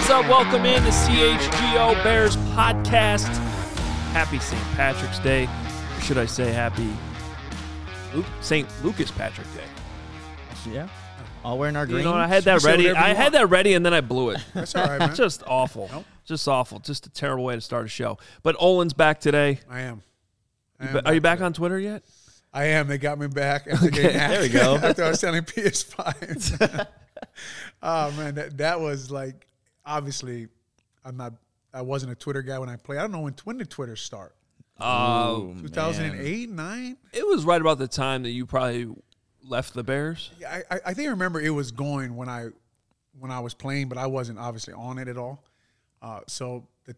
is up? Welcome in to CHGO Bears podcast. Happy St. Patrick's Day. Or should I say happy St. Lucas Patrick Day? Yeah. All wearing our green. You know, I had that ready. And then I blew it. That's all right, man. Just awful. Nope. Just awful. Just a terrible way to start a show. But Olin's back today. I am. Are you back on Twitter yet? I am. They got me back. After there we go. After I was selling PS5s. Oh, man. That was like, obviously, I wasn't a Twitter guy when I played. I don't know when did Twitter start? 2008, 9? It was right about the time that you probably left the Bears. Yeah, I think I remember it was going when I was playing, but I wasn't obviously on it at all. So the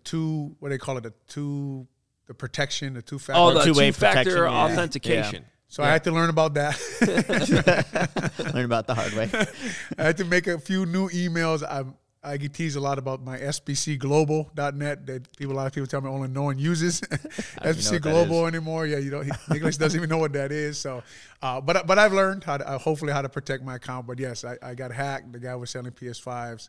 protection, the two-factor. Oh, the two-way two-factor protection, authentication. Yeah. So I had to learn about that. Learn about the hard way. I had to make a few new emails. I get teased a lot about my SBCglobal.net that a lot of people tell me only no one uses SBC Global anymore. Yeah, Nicholas doesn't even know what that is. So, but I've learned hopefully how to protect my account. But yes, I got hacked. The guy was selling PS5s.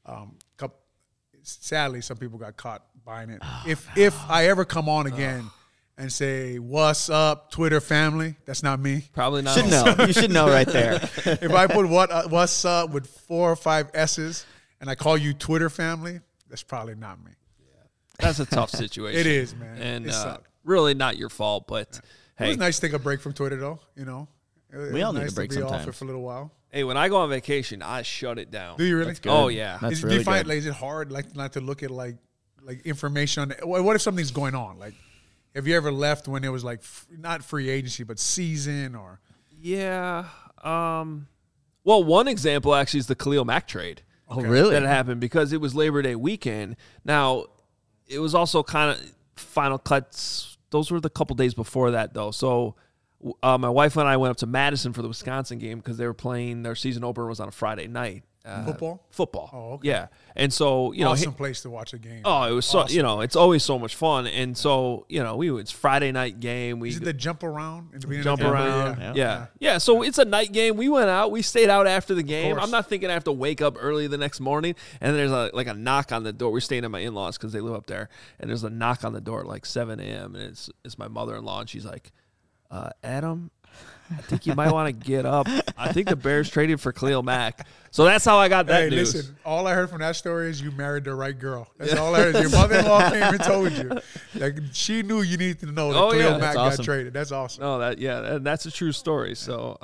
Sadly, some people got caught buying it. If I ever come on again and say, "What's up, Twitter family?" That's not me. Probably not. You should know right there. If I put what's up with 4 or 5 S's and I call you Twitter family, that's probably not me. That's a tough situation. It is, man. And it sucked. Really not your fault, but hey. It was nice to take a break from Twitter, though. You know, We all need nice a break to be sometimes. off it for a little while. Hey, when I go on vacation, I shut it down. Do you really? That's good. Oh, yeah. That's Do really you find good. is it hard not to look at like information on it? What if something's going on? Like, have you ever left when it was like not free agency but season or? Yeah. Well, one example actually is the Khalil Mack trade. Oh, really? That happened because it was Labor Day weekend. Now, it was also kind of final cuts. Those were the couple days before that, though. So my wife and I went up to Madison for the Wisconsin game because they were playing. Their season opener was on a Friday night. Football. Oh, okay. Yeah. And so, awesome place to watch a game. Oh, it was awesome. it's always so much fun. And so, it's Friday night game. Is it the jump around? Jump around. Yeah. Yeah. So it's a night game. We went out. We stayed out after the game. course. I'm not thinking I have to wake up early the next morning. And there's a knock on the door. We're staying at my in-laws because they live up there. And there's a knock on the door at like 7 a.m. And it's my mother-in-law. And she's like, Adam, I think you might want to get up. I think the Bears traded for Khalil Mack. So that's how I got that news. Listen, all I heard from that story is you married the right girl. That's all I heard. Your mother-in-law came and told you. Like, she knew you needed to know that Khalil Mack got traded. That's awesome. No, and that's a true story. So,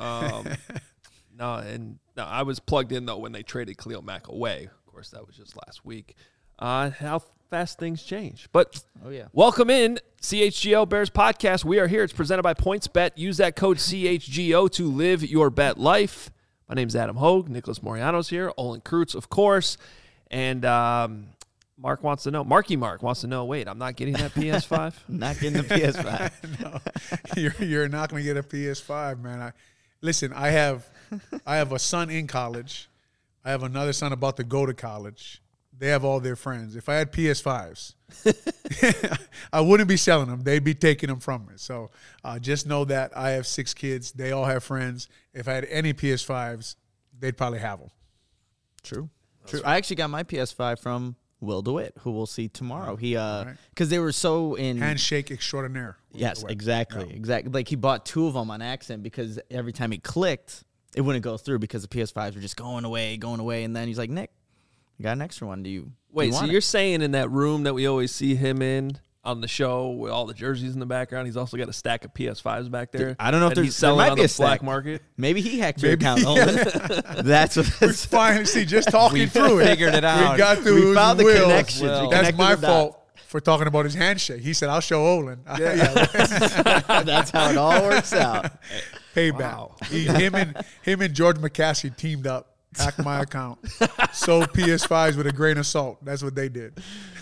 I was plugged in, though, when they traded Khalil Mack away. Of course, that was just last week. How fast things change. But welcome in, CHGO Bears Podcast. We are here. It's presented by PointsBet. Use that code CHGO to live your bet life. My name's Adam Hogue. Nicholas Moriano's here. Olin Kreutz, of course. And Marky Mark wants to know, wait, I'm not getting that PS5? Not getting the PS5. No, you're not going to get a PS5, man. Listen, I have a son in college. I have another son about to go to college. They have all their friends. If I had PS5s, I wouldn't be selling them. They'd be taking them from me. So just know that I have 6 kids. They all have friends. If I had any PS5s, they'd probably have them. True. I actually got my PS5 from Will DeWitt, who we'll see tomorrow. He because they were so in handshake extraordinaire. Yes, exactly. Like he bought 2 of them on accident because every time he clicked, it wouldn't go through because the PS5s were just going away, and then he's like, Nick, I got an extra one. Do you so you're saying in that room that we always see him in on the show with all the jerseys in the background, he's also got a stack of PS5s back there? I don't know if he's selling there might on be the a black stack. market. Maybe he hacked your account. That's what It's fine. See, just talking through it. Figured it out. We got through. We found the Will. connections. Well, That's my fault for talking about his handshake. He said, "I'll show Olin." That's how it all works out. Payback. Wow. Him and George McCaskey teamed up. Hacked my account. Sold PS5s with a grain of salt. That's what they did.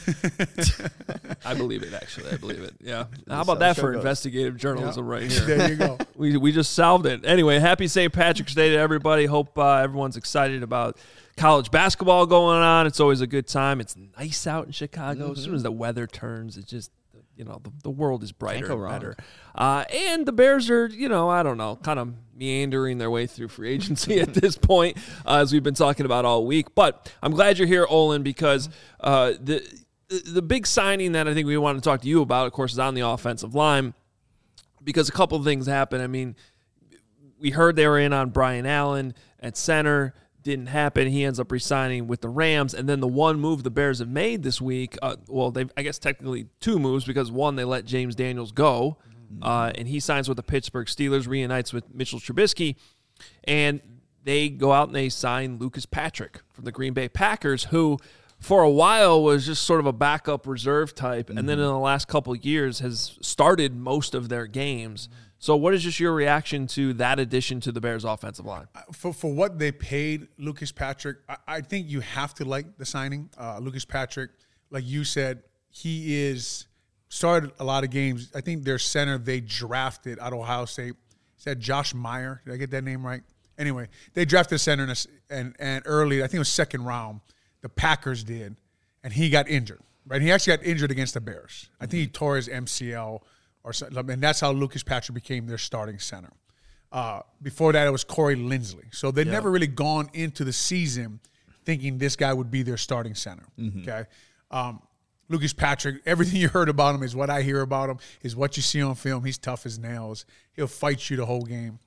I believe it, actually. I believe it. Yeah. How about that for investigative journalism right here? There you go. We just solved it. Anyway, happy St. Patrick's Day to everybody. Hope everyone's excited about college basketball going on. It's always a good time. It's nice out in Chicago. As soon as the weather turns, it's just the world is brighter and better. And the Bears are, I don't know, kind of meandering their way through free agency at this point, as we've been talking about all week. But I'm glad you're here, Olin, because the big signing that I think we want to talk to you about, of course, is on the offensive line, because a couple of things happened. I mean, we heard they were in on Brian Allen at center. Didn't happen. He ends up re-signing with the Rams. And then the one move the Bears have made this week, they've, I guess, technically two moves, because one, they let James Daniels go, and he signs with the Pittsburgh Steelers, reunites with Mitchell Trubisky, and they go out and they sign Lucas Patrick from the Green Bay Packers, who for a while was just sort of a backup reserve type, and then in the last couple of years has started most of their games. So what is just your reaction to that addition to the Bears offensive line? For what they paid Lucas Patrick, I think you have to like the signing. Lucas Patrick, like you said, he started a lot of games. I think their center they drafted out of Ohio State. Is that Josh Meyer? Did I get that name right? Anyway, they drafted a center and early, I think it was second round, the Packers did, and he got injured. Right, he actually got injured against the Bears. I think he tore his MCL. And that's how Lucas Patrick became their starting center. Before that, it was Corey Linsley. So they'd never really gone into the season thinking this guy would be their starting center. Okay, Lucas Patrick, everything you heard about him is what I hear about him, is what you see on film. He's tough as nails. He'll fight you the whole game.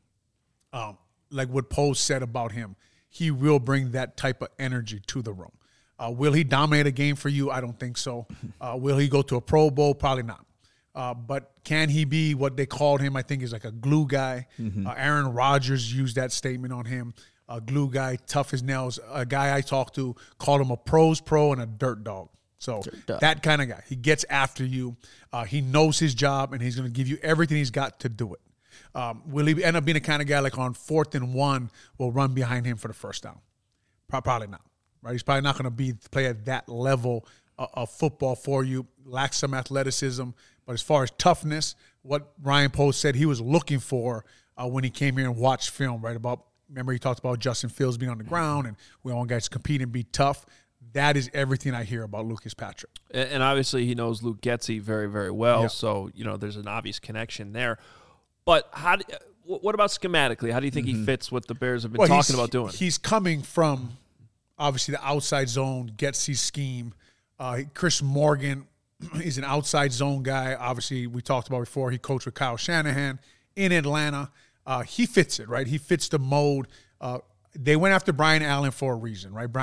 Like what Poe said about him, he will bring that type of energy to the room. Will he dominate a game for you? I don't think so. Will he go to a Pro Bowl? Probably not. But can he be what they called him? I think is like a glue guy. Aaron Rodgers used that statement on him. A glue guy, tough as nails. A guy I talked to called him a pro's pro and a dirt dog. So that kind of guy. He gets after you. He knows his job, and he's going to give you everything he's got to do it. Will he end up being the kind of guy like on 4th and 1 will run behind him for the first down? Probably not. Right? He's probably not going to play at that level of football for you. Lacks some athleticism. But as far as toughness, what Ryan Poe said he was looking for when he came here and watched film, right? Remember he talked about Justin Fields being on the ground and we want guys to compete and be tough. That is everything I hear about Lucas Patrick. And obviously he knows Luke Getsy very, very well. Yeah. So, there's an obvious connection there. But what about schematically? How do you think he fits what the Bears have been talking about doing? He's coming from, obviously, the outside zone, Getsy's scheme. Chris Morgan is an outside zone guy. Obviously, we talked about before. He coached with Kyle Shanahan in Atlanta. He fits it, right? He fits the mold. They went after Brian Allen for a reason, right?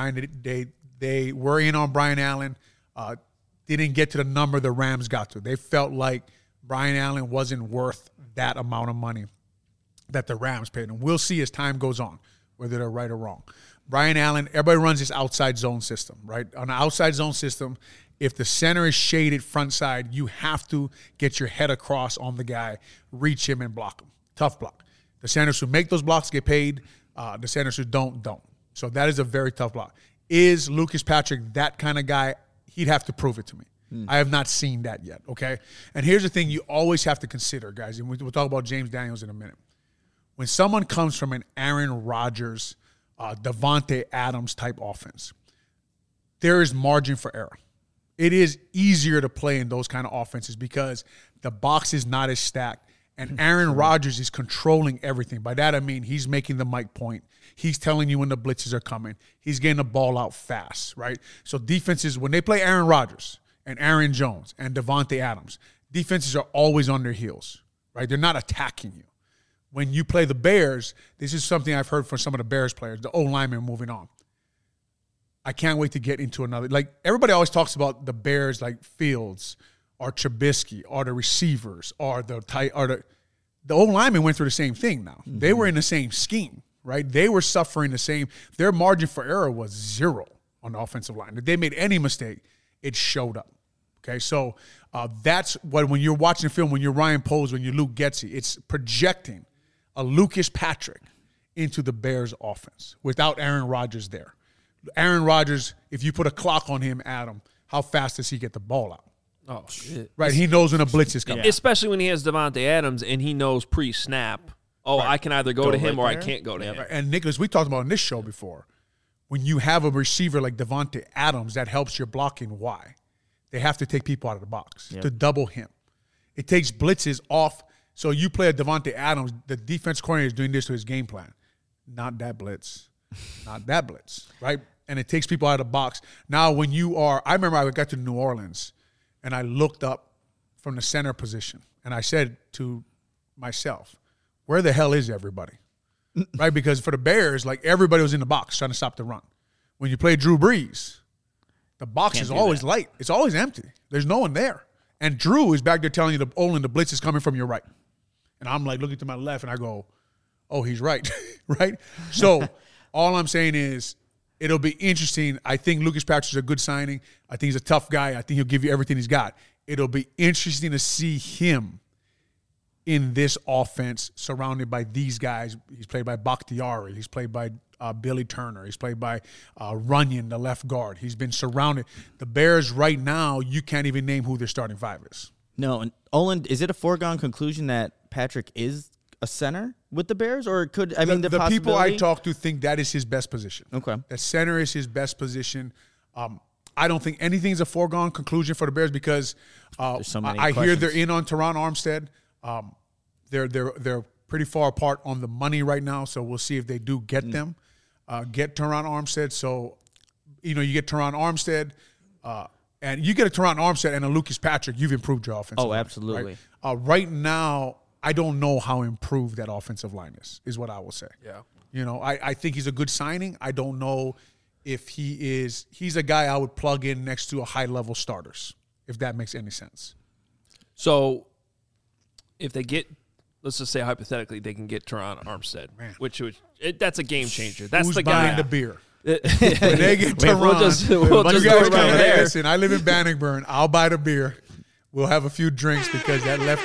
They were in on Brian Allen. Didn't get to the number the Rams got to. They felt like Brian Allen wasn't worth that amount of money that the Rams paid him. We'll see as time goes on whether they're right or wrong. Brian Allen, everybody runs this outside zone system, right? On the outside zone system, if the center is shaded front side, you have to get your head across on the guy, reach him, and block him. Tough block. The centers who make those blocks get paid. The centers who don't. So that is a very tough block. Is Lucas Patrick that kind of guy? He'd have to prove it to me. I have not seen that yet, okay? And here's the thing you always have to consider, guys, and we'll talk about James Daniels in a minute. When someone comes from an Aaron Rodgers, Davante Adams type offense, there is margin for error. It is easier to play in those kind of offenses because the box is not as stacked, and Aaron Rodgers is controlling everything. By that, I mean he's making the mic point. He's telling you when the blitzes are coming. He's getting the ball out fast, right? So defenses, when they play Aaron Rodgers and Aaron Jones and Davante Adams, defenses are always on their heels, right? They're not attacking you. When you play the Bears, this is something I've heard from some of the Bears players, the O-linemen moving on. I can't wait to get into another. Like, everybody always talks about the Bears, like Fields or Trubisky or the receivers or the O-linemen went through the same thing now. They were in the same scheme, right? They were suffering the same. Their margin for error was 0 on the offensive line. If they made any mistake, it showed up. Okay, so that's what, when you're watching the film, when you're Ryan Poles, when you're Luke Getsy, it's projecting a Lucas Patrick into the Bears offense without Aaron Rodgers there. Aaron Rodgers, if you put a clock on him, Adam, how fast does he get the ball out? Oh, shit. Right, he knows when a blitz is coming. Yeah. Especially when he has Davante Adams and he knows pre-snap, right. I can either go to him or I can't go to him. Right. And, Nicholas, we talked about in this show before, when you have a receiver like Davante Adams, that helps your blocking. Why? They have to take people out of the box to double him. It takes blitzes off. So you play a Devontae Adams, the defense coordinator is doing this to his game plan. Not that blitz. Not that blitz, right? And it takes people out of the box. Now when I remember I got to New Orleans and I looked up from the center position and I said to myself, where the hell is everybody? Right? Because for the Bears, like everybody was in the box trying to stop the run. When you play Drew Brees, the box is always light. It's always empty. There's no one there. And Drew is back there telling you the blitz is coming from your right. And I'm like looking to my left and I go, oh, he's right. Right? So all I'm saying is it'll be interesting. I think Lucas Patrick's a good signing. I think he's a tough guy. I think he'll give you everything he's got. It'll be interesting to see him in this offense surrounded by these guys. He's played by Bakhtiari. He's played by Billy Turner. He's played by Runyon, the left guard. He's been surrounded. The Bears right now, you can't even name who their starting five is. No, and Olin, is it a foregone conclusion that Patrick is a center with the Bears? Or could, the people I talk to think that is his best position. Okay. That center is his best position. I don't think anything's a foregone conclusion for the Bears because I hear they're in on Teron Armstead. They're pretty far apart on the money right now, so we'll see if they do get them. Get Teron Armstead. So, you get Teron Armstead, and you get a Teron Armstead and a Lucas Patrick, you've improved your offensive line. Oh, absolutely. Right? Right now, I don't know how improved that offensive line is what I will say. Yeah. I think he's a good signing. I don't know if he's a guy I would plug in next to a high-level starters, if that makes any sense. So if they get, let's just say hypothetically, they can get Teron Armstead, that's a game changer. That's Who's the guy. buying the beer? When they get Teron, we'll just go right there. Listen, I live in Bannockburn. I'll buy the beer. We'll have a few drinks because that left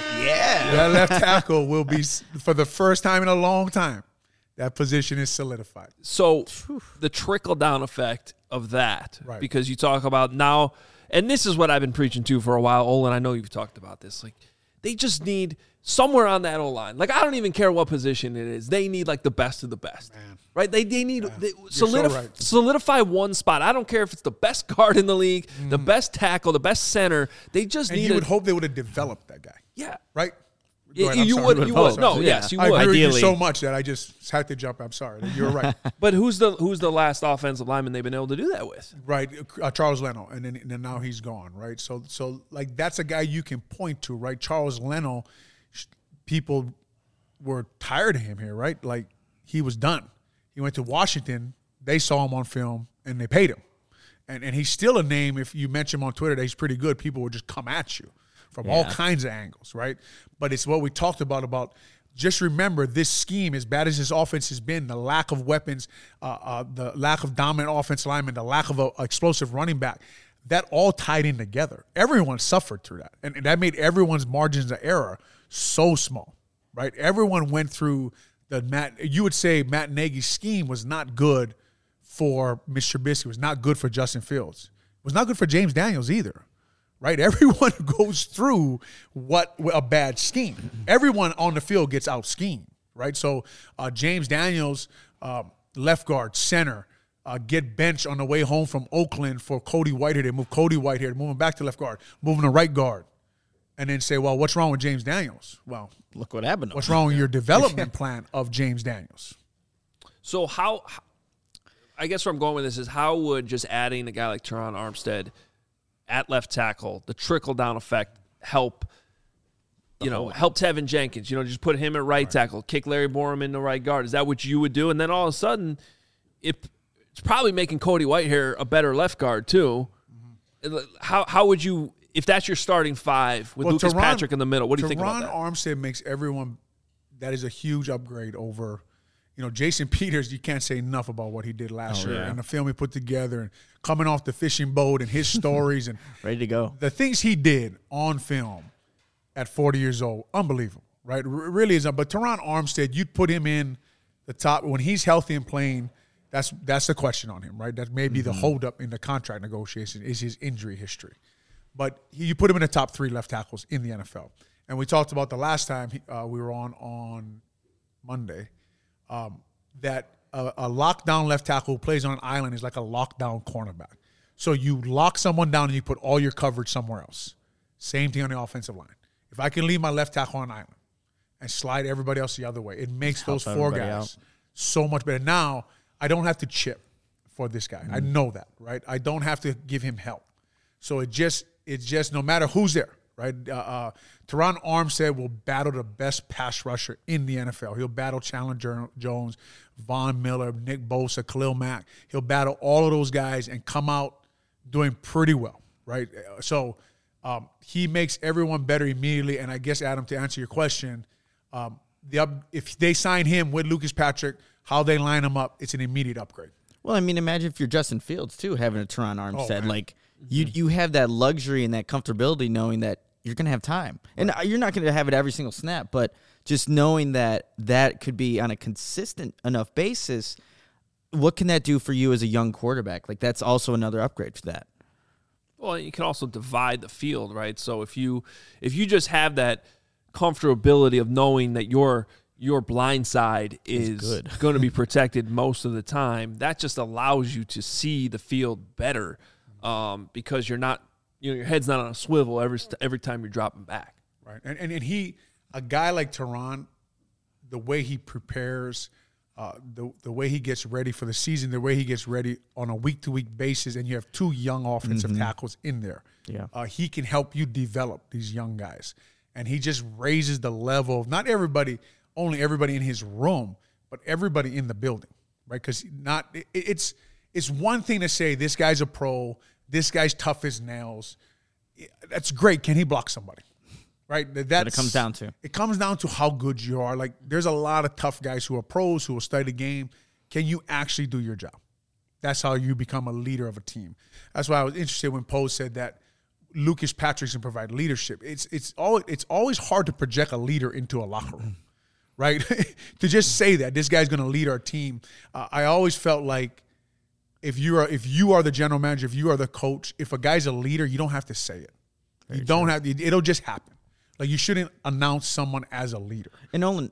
tackle will be, for the first time in a long time, that position is solidified. So the trickle-down effect of that, right. Because you talk about now, and this is what I've been preaching to for a while, Olin, I know you've talked about this. Like, they just need somewhere on that O-line. Like, I don't even care what position it is. They need, like, the best of the best. Man. Right? They need solidify, solidify one spot. I don't care if it's the best guard in the league, the best tackle, the best center. They just need you would hope they would have developed that guy. Yeah. Right? You would. No, yes, you would. I agree with you so much that I just had to jump. I'm sorry. You're right. But who's the last offensive lineman they've been able to do that with? Right, Charles Leno, and then now he's gone. Right, so like that's a guy you can point to. Right, Charles Leno. People were tired of him here. Right, like he was done. He went to Washington. They saw him on film and they paid him, and he's still a name. If you mention him on Twitter that he's pretty good, people will just come at you from all kinds of angles, right? But it's what we talked about just remember this scheme, as bad as this offense has been, the lack of weapons, the lack of dominant offensive linemen, the lack of an explosive running back, that all tied in together. Everyone suffered through that. And that made everyone's margins of error so small, right? Everyone went through you would say Matt Nagy's scheme was not good for Mitch Trubisky, was not good for Justin Fields. It was not good for James Daniels either. Right, everyone goes through a bad scheme. Everyone on the field gets out schemed. Right, so James Daniels, left guard, center, get benched on the way home from Oakland for Cody Whitehair. They move Cody Whitehair, move him back to left guard, move him to right guard, and then say, "Well, what's wrong with James Daniels?" Well, look what happened. What's wrong with your development plan of James Daniels? So how? I guess where I'm going with this is how would just adding a guy like Teron Armstead at left tackle, the trickle-down effect, help Tevin Jenkins, just put him at right tackle, kick Larry Borom into right guard. Is that what you would do? And then all of a sudden, it's probably making Cody Whitehair a better left guard too. Mm-hmm. How would you, if that's your starting five with Lucas Patrick in the middle, what do you think about that? Teron Armstead makes everyone, that is a huge upgrade over Jason Peters, you can't say enough about what he did last year and the film he put together and coming off the fishing boat and his stories and ready to go. The things he did on film at 40 years old, unbelievable, right? Really is. But Teron Armstead, you'd put him in the top when he's healthy and playing. That's the question on him, right? That may be the holdup in the contract negotiation is his injury history. But you put him in the top 3 left tackles in the NFL. And we talked about the last time we were on Monday. That a lockdown left tackle who plays on an island is like a lockdown cornerback. So you lock someone down and you put all your coverage somewhere else. Same thing on the offensive line. If I can leave my left tackle on an island and slide everybody else the other way, it makes those 4 guys so much better. Now, I don't have to chip for this guy. I know that, right? I don't have to give him help. So it's just no matter who's there, right? Teron Armstead will battle the best pass rusher in the NFL. He'll battle Chandler Jones, Von Miller, Nick Bosa, Khalil Mack. He'll battle all of those guys and come out doing pretty well, right? So he makes everyone better immediately. And I guess, Adam, to answer your question, if they sign him with Lucas Patrick, how they line him up, it's an immediate upgrade. Well, I mean, imagine if you're Justin Fields, too, having a Teron Armstead. Like, you have that luxury and that comfortability knowing that you're going to have time. And you're not going to have it every single snap, but just knowing that that could be on a consistent enough basis, what can that do for you as a young quarterback? Like, that's also another upgrade for that. Well, you can also divide the field, right? So if you just have that comfortability of knowing that your blind side is going to be protected most of the time, that just allows you to see the field better because you're not, your head's not on a swivel every time you're dropping back. Right, and a guy like Teron, the way he prepares, the way he gets ready for the season, the way he gets ready on a week-to-week basis, and you have 2 young offensive tackles in there. Yeah, he can help you develop these young guys, and he just raises the level of not everybody. Only everybody in his room, but everybody in the building, right? Because it's one thing to say this guy's a pro, this guy's tough as nails. That's great. Can he block somebody? Right? That's what it comes down to. It comes down to how good you are. Like, there's a lot of tough guys who are pros who will study the game. Can you actually do your job? That's how you become a leader of a team. That's why I was interested when Poe said that Lucas Patrick can provide leadership. It's always hard to project a leader into a locker room. Right? To just say that this guy's going to lead our team. I always felt like if you are the general manager, if you are the coach, if a guy's a leader, you don't have to say it. You don't have to, it'll just happen. Like, you shouldn't announce someone as a leader. And Nolan,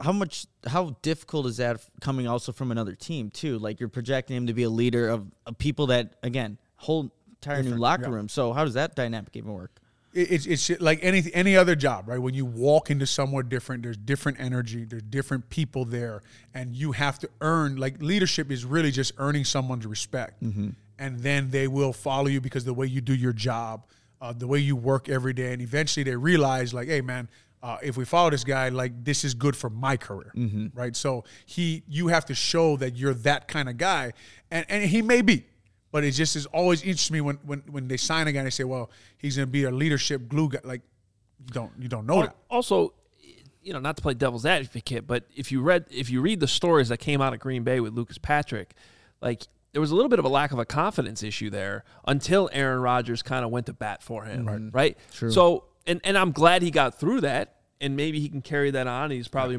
how difficult is that coming also from another team too? Like, you're projecting him to be a leader of people that, again, whole entire new locker room. So how does that dynamic even work? It's like any other job, right? When you walk into somewhere different, there's different energy, there's different people there, and you have to earn. Like, leadership is really just earning someone's respect, and then they will follow you because the way you do your job, the way you work every day, and eventually they realize, like, hey, man, if we follow this guy, like, this is good for my career, right? So you have to show that you're that kind of guy, and he may be. But it just is always interests me when they sign a guy and they say, well, he's going to be a leadership glue guy. Like, you don't know that. Also, not to play devil's advocate, but if you read the stories that came out of Green Bay with Lucas Patrick, like, there was a little bit of a lack of a confidence issue there until Aaron Rodgers kind of went to bat for him, right? True. So, and I'm glad he got through that, and maybe he can carry that on. He's probably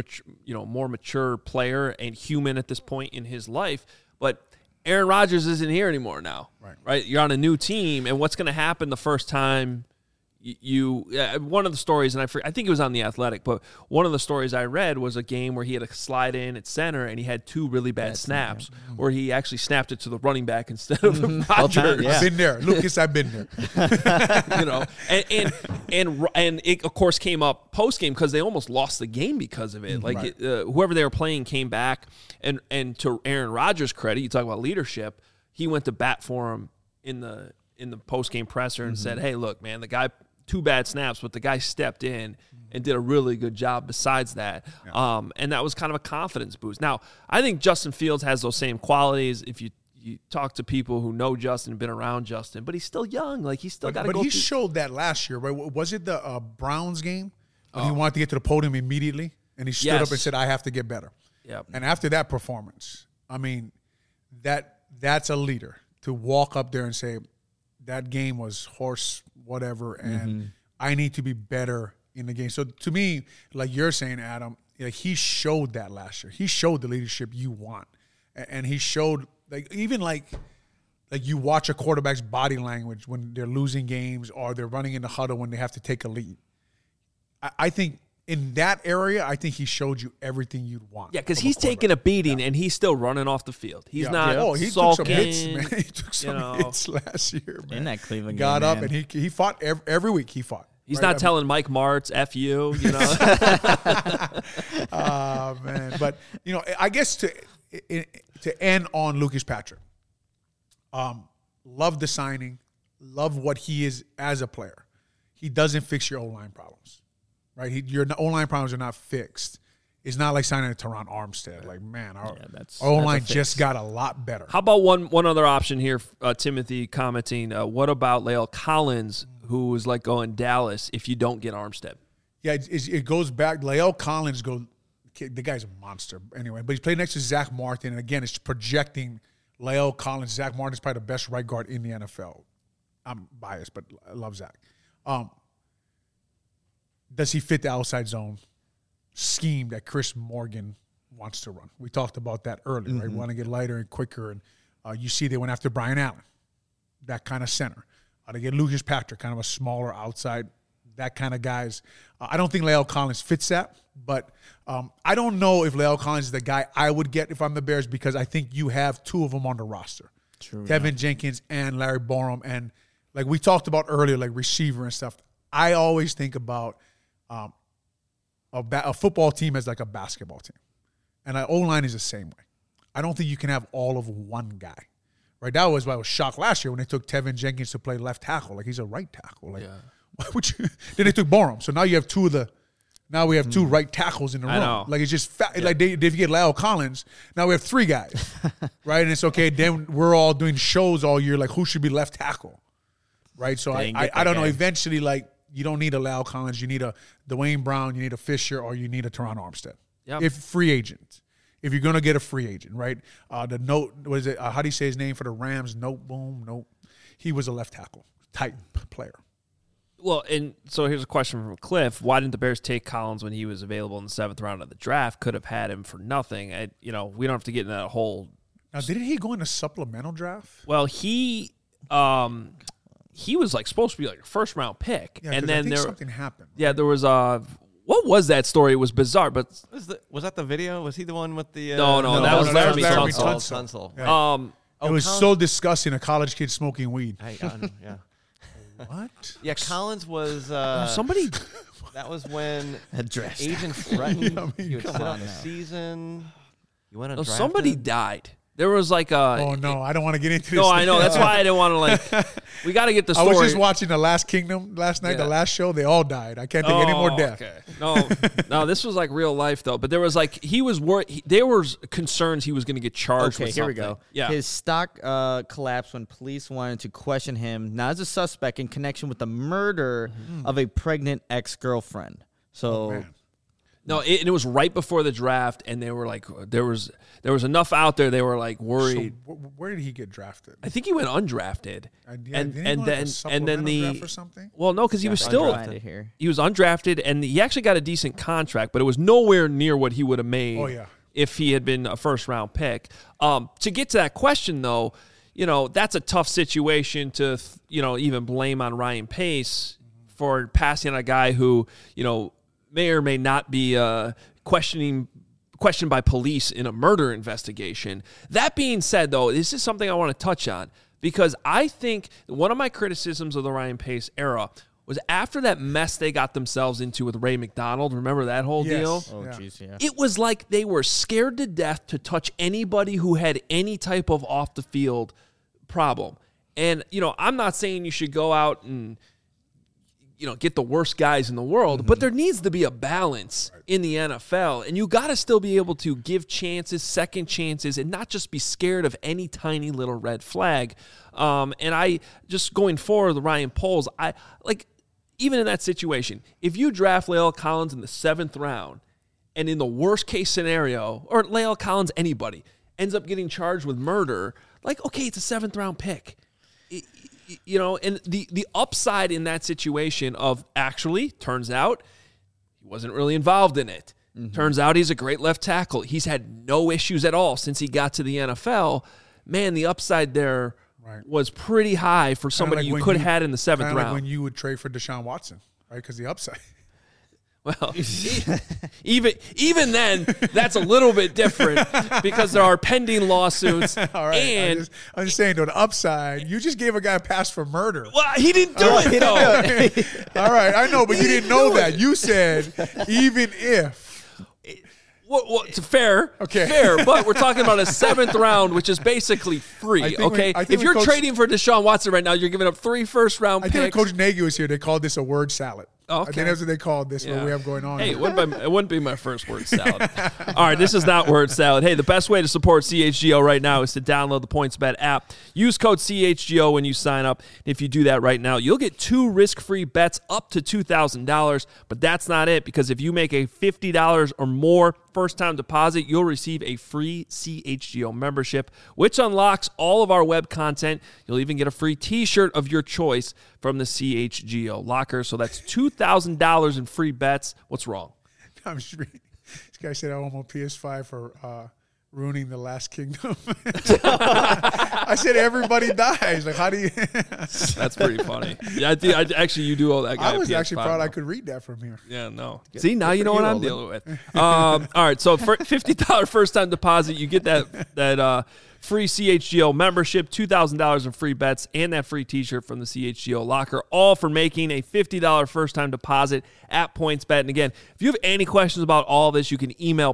a more mature player and human at this point in his life, but Aaron Rodgers isn't here anymore now, right? You're on a new team, and what's going to happen the first time one of the stories, and I think it was on The Athletic, but one of the stories I read was a game where he had to slide in at center, and he had 2 really bad snaps, where he actually snapped it to the running back instead of Rodgers. Yeah. I've been there, Lucas. I've been there. And it of course came up post game because they almost lost the game because of it. Like, whoever they were playing came back, and to Aaron Rodgers' credit, you talk about leadership, he went to bat for him in the post game presser and said, "Hey, look, man, the guy." 2 bad snaps, but the guy stepped in and did a really good job besides that. Yeah. And that was kind of a confidence boost. Now, I think Justin Fields has those same qualities. If you talk to people who know Justin, been around Justin, but he's still young. Like, he's still got to go. But he showed that last year, right? Was it the Browns game when he wanted to get to the podium immediately? And he stood up and said, I have to get better. Yep. And after that performance, I mean, that's a leader to walk up there and say, that game was horse whatever, and I need to be better in the game. So to me, like you're saying, Adam, like, he showed that last year. He showed the leadership you want, and he showed, like, even like you watch a quarterback's body language when they're losing games or they're running in the huddle when they have to take a lead. I think in that area, I think he showed you everything you'd want. Yeah, because he's taking a beating and he's still running off the field. He's not he sulking. Took some hits, man. He took some hits last year, man. In that Cleveland Got game, up, and he fought every week. He fought. He's not telling Mike Martz, F you, you know. Oh, man. But, you know, I guess to end on Lucas Patrick, love the signing, love what he is as a player. He doesn't fix your O-line problems, right? Your O-line problems are not fixed. It's not like signing a Teron Armstead. Like, man, our O-line just got a lot better. How about one other option here, Timothy commenting, what about La'el Collins, who is like going Dallas if you don't get Armstead? Yeah, it goes back. La'el Collins, the guy's a monster anyway, but he's played next to Zach Martin, and again, it's projecting La'el Collins. Zach Martin is probably the best right guard in the NFL. I'm biased, but I love Zach. Does he fit the outside zone scheme that Chris Morgan wants to run? We talked about that earlier, right? We want to get lighter and quicker, and you see they went after Brian Allen, that kind of center. They get Lucas Patrick, kind of a smaller outside, that kind of guys. I don't think La'el Collins fits that, but I don't know if La'el Collins is the guy I would get if I'm the Bears, because I think you have two of them on the roster. True, Tevin Jenkins and Larry Borom, and like we talked about earlier, like receiver and stuff. I always think about a football team as like a basketball team. And an O-line is the same way. I don't think you can have all of one guy. Right? That was why I was shocked last year when they took Tevin Jenkins to play left tackle. Like, he's a right tackle. Like, why would you? Then they took Borom. So now you have now we have two right tackles in the room. Like, it's just like if you get La'el Collins, now we have three guys. Right? And it's okay. Then we're all doing shows all year, like who should be left tackle. Right? So I don't know. Eventually, like, you don't need a La'el Collins. You need a Dwayne Brown. You need a Fisher, or you need a Teron Armstead. Yep. If free agent. If you're going to get a free agent, right? How do you say his name for the Rams? Nope. He was a left tackle type player. Well, and so here's a question from Cliff. Why didn't the Bears take Collins when he was available in the 7th round of the draft? Could have had him for nothing. We don't have to get in that whole. Now, didn't he go in a supplemental draft? Well, he was like supposed to be like a 1st round pick, and then something happened. Yeah, there was what was that story? It was bizarre, but was that the video? Was he the one with the? No, that was Laremy Tunsil. Yeah. It was so disgusting. A college kid smoking weed. Yeah. What? Yeah, Collins was somebody. That was when agents threatened he would sit out the season. You went undrafted. Somebody died. There was like a. Oh no, I don't want to get into this. No, I know. That's why I didn't want to We got to get the story. I was just watching The Last Kingdom last night. The last show, they all died. I can't think any more death. Okay. No, this was like real life though. But there was like he was worried. There was concerns he was going to get charged. Okay, with here something. we go. Yeah, his stock collapsed when police wanted to question him, not as a suspect, in connection with the murder of a pregnant ex-girlfriend. So. No, it was right before the draft, and they were like, there was enough out there. They were like worried. So where did he get drafted? I think he went undrafted, and then draft or something. Well, no, because he was still he was undrafted, and he actually got a decent contract, but it was nowhere near what he would have made. Oh yeah. If he had been a 1st round pick. To get to that question though, that's a tough situation to even blame on Ryan Pace for passing on a guy who may or may not be questioned by police in a murder investigation. That being said, though, this is something I want to touch on, because I think one of my criticisms of the Ryan Pace era was after that mess they got themselves into with Ray McDonald. Remember that whole deal? Oh, jeez, yeah. It was like they were scared to death to touch anybody who had any type of off-the-field problem. And, I'm not saying you should go out and get the worst guys in the world, but there needs to be a balance in the NFL, and you got to still be able to give chances, second chances, and not just be scared of any tiny little red flag. And I just going forward, the Ryan Poles, even in that situation, if you draft La'el Collins in the 7th round, and in the worst case scenario, or La'el Collins, anybody ends up getting charged with murder, okay, it's a 7th round pick. And the upside in that situation of actually turns out he wasn't really involved in it. Turns out he's a great left tackle. He's had no issues at all since he got to the NFL. Man, the upside there was pretty high for somebody you could have had in the 7th round. Like when you would trade for Deshaun Watson, right? Because the upside. Well, even then, that's a little bit different because there are pending lawsuits. All right, and I'm just saying, to the upside, you just gave a guy a pass for murder. Well, he didn't do it, though. All right, I know, but you didn't know that. You said, even if. Well, it's fair, but we're talking about a 7th round, which is basically free, okay? If you're trading for Deshaun Watson right now, you're giving up 3 first-round picks. I think when Coach Nagy was here, they called this a word salad. Okay. I think that's what they called this, what we have going on. Hey, it wouldn't be my first word salad. All right, this is not word salad. Hey, the best way to support CHGO right now is to download the PointsBet app. Use code CHGO when you sign up. If you do that right now, you'll get 2 risk-free bets up to $2,000. But that's not it, because if you make a $50 or more first-time deposit, you'll receive a free CHGO membership, which unlocks all of our web content. You'll even get a free T-shirt of your choice from the CHGO locker. So that's $2,000 in free bets. What's wrong? I'm just reading. This guy said I want my PS5 for ruining the Last Kingdom. I said everybody dies. Like, how do you? That's pretty funny. Yeah, actually, you do owe that guy. I was PS5 actually proud I could read that from here. Yeah, no. See, now you know what I'm dealing with. All right, so for $50 first-time deposit, you get that free CHGO membership, $2,000 in free bets, and that free T-shirt from the CHGO locker, all for making a $50 first-time deposit at PointsBet. And again, if you have any questions about all this, you can email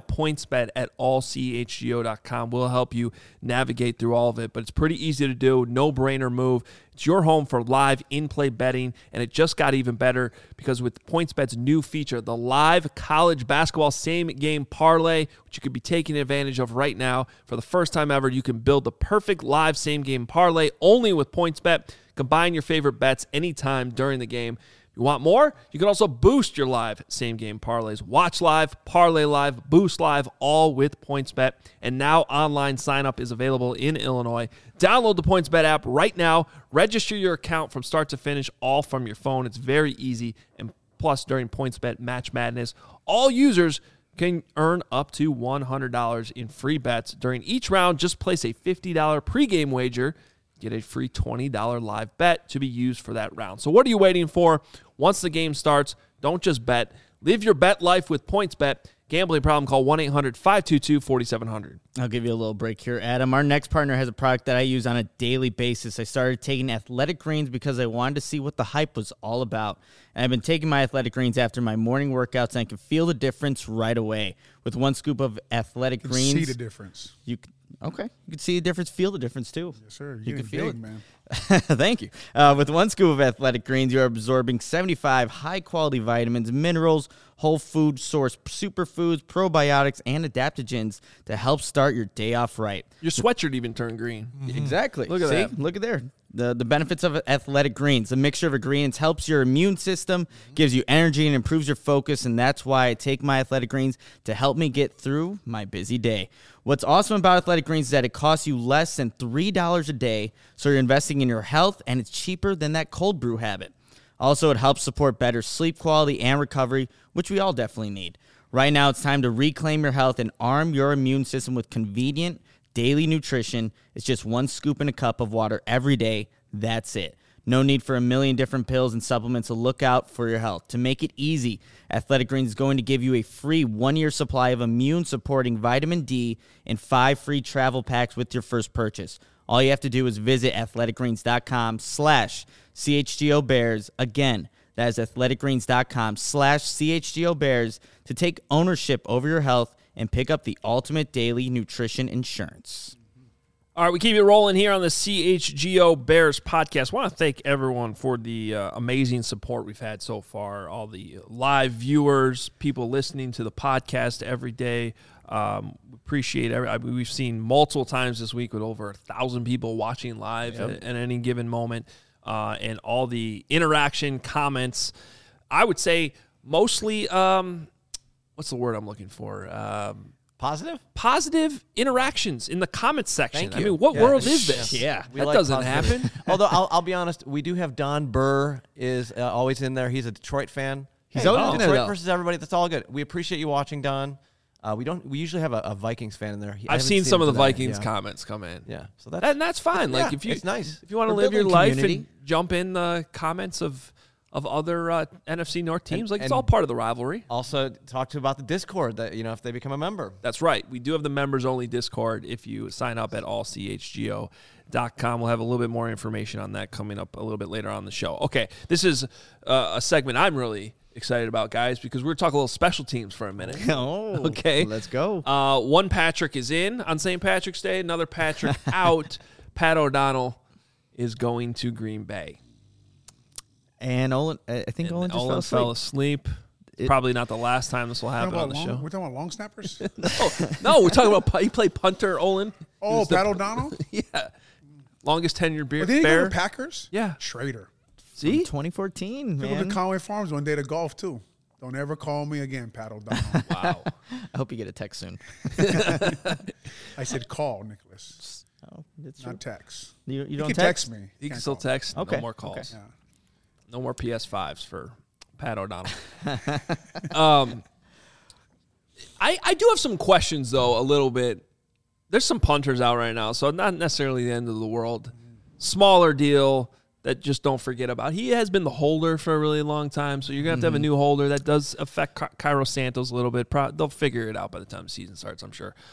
pointsbet@allchgo.com. We'll help you navigate through all of it, but it's pretty easy to do, no-brainer move. It's your home for live in-play betting, and it just got even better because with PointsBet's new feature, the live college basketball same-game parlay, which you could be taking advantage of right now. For the first time ever, you can build the perfect live same-game parlay only with PointsBet. Combine your favorite bets anytime during the game. If you want more, you can also boost your live same-game parlays. Watch live, parlay live, boost live, all with PointsBet. And now online sign-up is available in Illinois. Download the PointsBet app right now. Register your account from start to finish, all from your phone. It's very easy. And plus, during PointsBet Match Madness, all users can earn up to $100 in free bets. During each round, just place a $50 pregame wager. Get a free $20 live bet to be used for that round. So what are you waiting for? Once the game starts, don't just bet. Live your bet life with PointsBet. Gambling problem, call 1-800-522-4700. I'll give you a little break here, Adam. Our next partner has a product that I use on a daily basis. I started taking Athletic Greens because I wanted to see what the hype was all about. And I've been taking my Athletic Greens after my morning workouts, and I can feel the difference right away. With 1 scoop of Athletic Greens. See the difference. Okay. You can see the difference, feel the difference, too. Yes, sir. You can feel it, man. Thank you. With 1 scoop of Athletic Greens, you're absorbing 75 high-quality vitamins, minerals, whole food source superfoods, probiotics, and adaptogens to help start your day off right. Your sweatshirt even turned green. Mm-hmm. Exactly. Look at that. Look at there. The benefits of Athletic Greens. The mixture of ingredients helps your immune system, gives you energy, and improves your focus, and that's why I take my Athletic Greens to help me get through my busy day. What's awesome about Athletic Greens is that it costs you less than $3 a day, so you're investing in your health, and it's cheaper than that cold brew habit. Also, it helps support better sleep quality and recovery, which we all definitely need. Right now, it's time to reclaim your health and arm your immune system with convenient daily nutrition. It's just 1 scoop in a cup of water every day. That's it. No need for a million different pills and supplements to look out for your health. To make it easy, Athletic Greens is going to give you a free 1-year supply of immune-supporting vitamin D and 5 free travel packs with your first purchase. All you have to do is visit athleticgreens.com/CHGOBears. Again, that is athleticgreens.com/CHGOBears to take ownership over your health and pick up the ultimate daily nutrition insurance. All right, we keep it rolling here on the CHGO Bears podcast. I want to thank everyone for the amazing support we've had so far, all the live viewers, people listening to the podcast every day. Appreciate we've seen multiple times this week with over 1,000 people watching live at any given moment, and all the interaction, comments. I would say mostly, what's the word I'm looking for? Positive interactions in the comments section. I mean, what world is this? Yeah. That doesn't happen. Although, I'll be honest, we do have Don Burr is always in there. He's a Detroit fan. He's always in there, Detroit versus everybody. That's all good. We appreciate you watching, Don. We usually have a Vikings fan in there. I've seen some of the Vikings comments come in. Yeah. So that's fine. Like, it's nice. If you want to live your life and jump in the comments of of other NFC North teams. It's all part of the rivalry. Also, talk about the Discord that if they become a member. That's right. We do have the members-only Discord. If you sign up at allchgo.com, we'll have a little bit more information on that coming up a little bit later on the show. Okay, this is a segment I'm really excited about, guys, because we're talking a little special teams for a minute. Oh, okay. Let's go. One Patrick is in on St. Patrick's Day. Another Patrick out. Pat O'Donnell is going to Green Bay. And Olin, I think Olin just fell asleep. Probably not the last time this will happen on the show. We're talking about long snappers? No, we're talking about he played punter, Olin. Oh, Pat O'Donnell? Yeah. Longest tenured bear. Did he go to Packers? Yeah. Schrader. See? 2014, man. He went to Conway Farms one day to golf, too. Don't ever call me again, Pat O'Donnell. Wow. I hope you get a text soon. I said call, Nicholas. Oh, that's not text. You don't can text me. You can still text. Okay. No more calls. Okay. Yeah. No more PS5s for Pat O'Donnell. I do have some questions, though, a little bit. There's some punters out right now, so not necessarily the end of the world. Smaller deal that just don't forget about. He has been the holder for a really long time, so you're going to have a new holder. That does affect Cairo Santos a little bit. They'll figure it out by the time the season starts, I'm sure.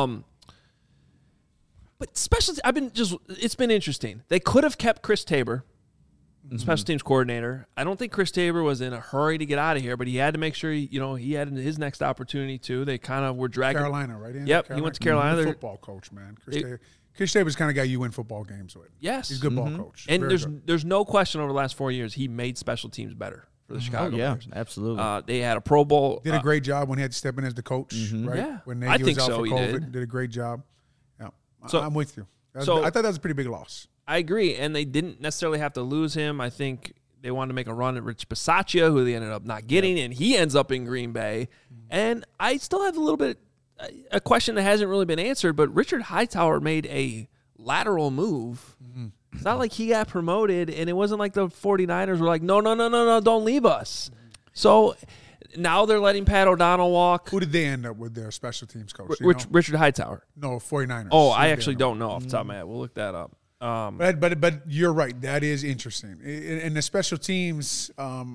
But it's been interesting. They could have kept Chris Tabor, special teams coordinator. I don't think Chris Tabor was in a hurry to get out of here, but he had to make sure he had his next opportunity too. They kind of were dragging Carolina, right? Yep, he went to Carolina. Football coach, man. Chris Tabor's the kind of guy you win football games with. Yes, he's a good ball coach. And there's no question over the last 4 years he made special teams better for the Chicago Bears. Absolutely. They had a Pro Bowl. Did a great job when he had to step in as the coach, right? Yeah, when Nagy was out for COVID, did a great job. Yeah, so I'm with you. I thought that was a pretty big loss. I agree, and they didn't necessarily have to lose him. I think they wanted to make a run at Rich Bisaccia, who they ended up not getting, and he ends up in Green Bay. And I still have a question that hasn't really been answered, but Richard Hightower made a lateral move. It's not like he got promoted, and it wasn't like the 49ers were like, no, don't leave us. So now they're letting Pat O'Donnell walk. Who did they end up with their special teams coach? Richard Hightower. No, 49ers. Oh, I actually don't know off the top of my head. We'll look that up. But you're right. That is interesting. In the special teams,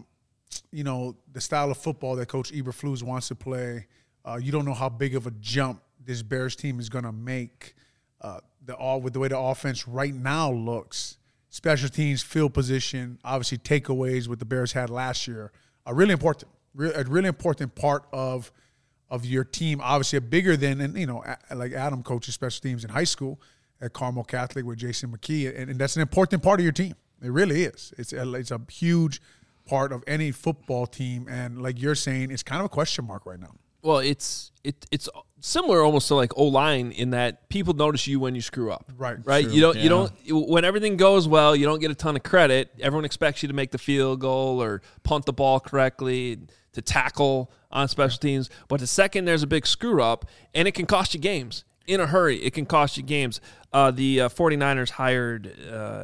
the style of football that Coach Eberflus wants to play, you don't know how big of a jump this Bears team is going to make. With the way the offense right now looks, special teams, field position, obviously takeaways what the Bears had last year are really important. A really important part of your team. Obviously, bigger than like Adam coaches special teams in high school at Carmel Catholic with Jason McKee, and that's an important part of your team. It really is. It's a huge part of any football team, and like you're saying, it's kind of a question mark right now. Well, it's similar almost to like O-line in that people notice you when you screw up. Right. True. You don't when everything goes well, you don't get a ton of credit. Everyone expects you to make the field goal or punt the ball correctly, to tackle on special teams. But the second there's a big screw up, and it can cost you games. In a hurry, it can cost you games. The 49ers hired